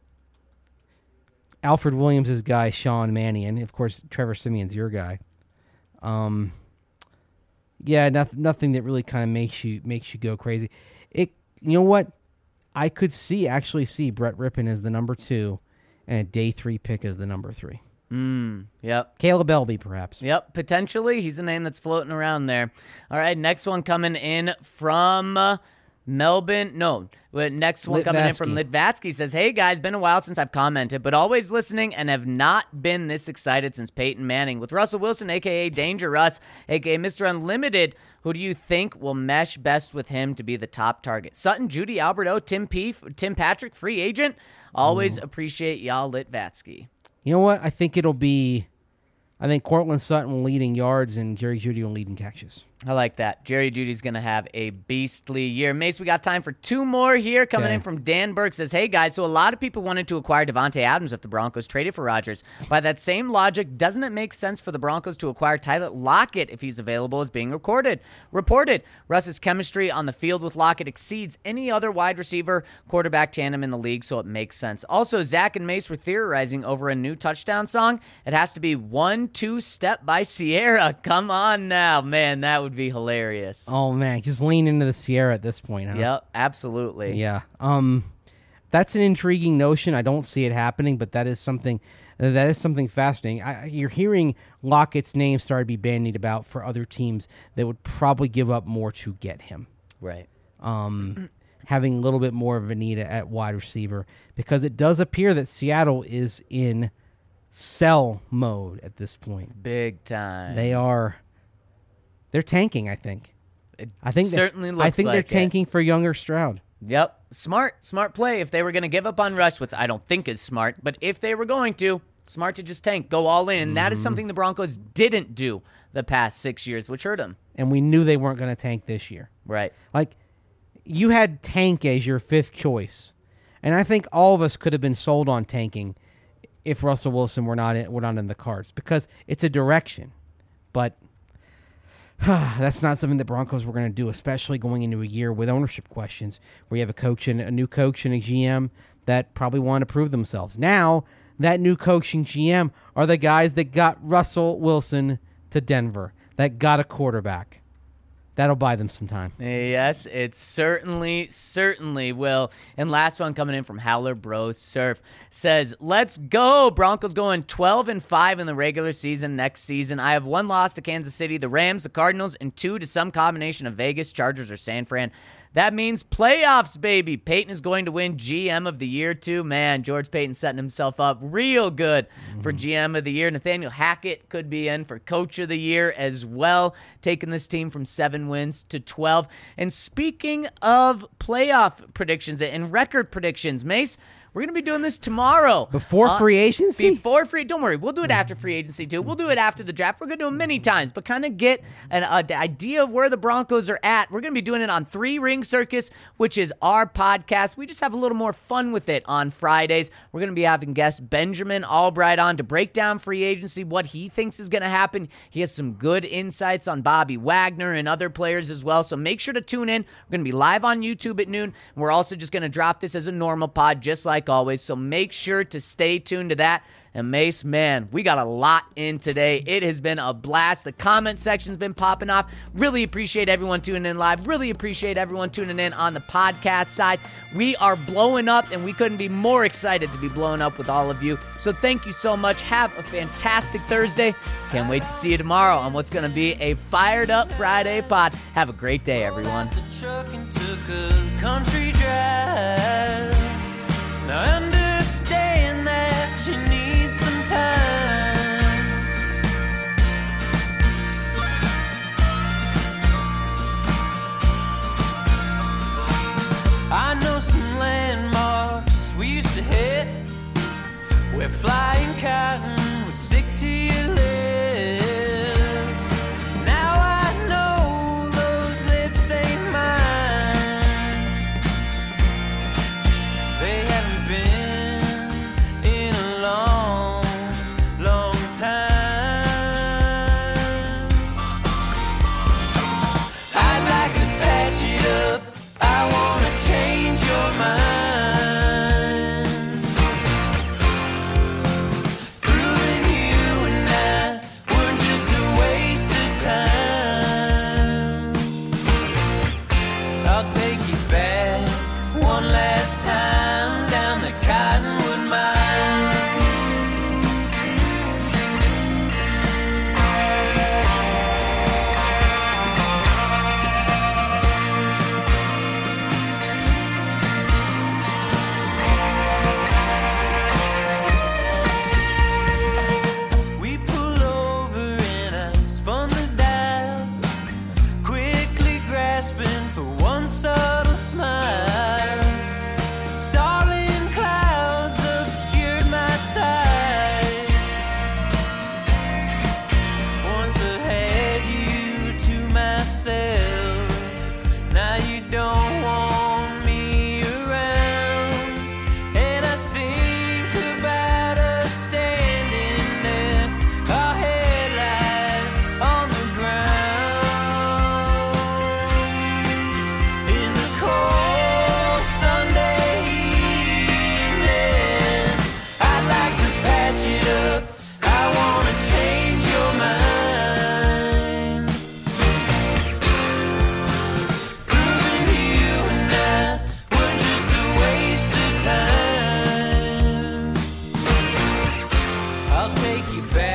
Alfred Williams' guy, Sean Mannion. Of course, Trevor Siemian's your guy. Um, yeah, nothing, nothing that really kind of makes you makes you go crazy. It, you know what? I could see actually see Brett Rippon as the number two, and a day three pick as the number three. Mm, yep. Caleb Elby, perhaps. Yep, potentially. He's a name that's floating around there. All right, next one coming in from uh, Melbourne, no. Next one coming in from Litvatsky says, hey guys, been a while since I've commented, but always listening and have not been this excited since Peyton Manning. With Russell Wilson, a k a. Danger Russ, a k a. Mister Unlimited, who do you think will mesh best with him to be the top target? Sutton, Judy, Alberto, Tim P, Tim Patrick, free agent? Always mm. appreciate y'all, Litvatsky. You know what? I think it'll be, I think Cortland Sutton will lead in yards and Jerry Jeudy will lead in catches. I like that. Jerry Jeudy's going to have a beastly year. Mace, we got time for two more here. Coming okay. in from Dan Burke says, hey, guys, so a lot of people wanted to acquire Devontae Adams if the Broncos traded for Rodgers. By that same logic, doesn't it make sense for the Broncos to acquire Tyler Lockett if he's available as being recorded? Reported, Russ's chemistry on the field with Lockett exceeds any other wide receiver quarterback tandem in the league, so it makes sense. Also, Zach and Mace were theorizing over a new touchdown song. It has to be One Two Step by Sierra. Come on now. Man, that would be hilarious. Oh man, just lean into the Sierra at this point, huh? Yep, absolutely. Yeah. Um that's an intriguing notion. I don't see it happening, but that is something that is something fascinating. I, you're hearing Lockett's name start to be bandied about for other teams that would probably give up more to get him. Right. Um having a little bit more of a need at wide receiver, because it does appear that Seattle is in sell mode at this point. Big time. They are They're tanking, I think. It I think certainly looks I think like they're it. tanking for younger Stroud. Yep. Smart. Smart play. If they were going to give up on Rush, which I don't think is smart, but if they were going to, smart to just tank, go all in. And mm-hmm. that is something the Broncos didn't do the past six years, which hurt them. And we knew they weren't going to tank this year. Right. Like, you had tank as your fifth choice. And I think all of us could have been sold on tanking if Russell Wilson were not in, were not in the cards, because it's a direction. But that's not something the Broncos were going to do, especially going into a year with ownership questions, where you have a coach and a new coach and a G M that probably want to prove themselves. Now, that new coach and G M are the guys that got Russell Wilson to Denver, that got a quarterback. That'll buy them some time. Yes, it certainly, certainly will. And last one coming in from Howler Bros Surf says, let's go. Broncos going twelve and five in the regular season next season. I have one loss to Kansas City, the Rams, the Cardinals, and two to some combination of Vegas, Chargers, or San Fran. That means playoffs, baby. Peyton is going to win G M of the year, too. Man, George Payton setting himself up real good mm-hmm. for G M of the year. Nathaniel Hackett could be in for Coach of the Year as well, taking this team from seven wins to twelve. And speaking of playoff predictions and record predictions, Mace, we're going to be doing this tomorrow. Before uh, free agency? Before free. Don't worry. We'll do it after free agency, too. We'll do it after the draft. We're going to do it many times, but kind of get an uh, idea of where the Broncos are at. We're going to be doing it on Three Ring Circus, which is our podcast. We just have a little more fun with it on Fridays. We're going to be having guest Benjamin Albright on to break down free agency, what he thinks is going to happen. He has some good insights on Bobby Wagner and other players as well, so make sure to tune in. We're going to be live on YouTube at noon. We're also just going to drop this as a normal pod, just like always, so make sure to stay tuned to that. And Mace, man, we got a lot in today. It has been a blast. The comment section's been popping off. Really appreciate everyone tuning in live. Really appreciate everyone tuning in on the podcast side. We are blowing up, and we couldn't be more excited to be blowing up with all of you. So thank you so much. Have a fantastic Thursday. Can't wait to see you tomorrow on what's going to be a fired up Friday pod. Have a great day, everyone. Now understand that you need some time. I know some landmarks we used to hit, where flying cotton would stick to your lips. Now I know those lips ain't mine. They haven't been get back.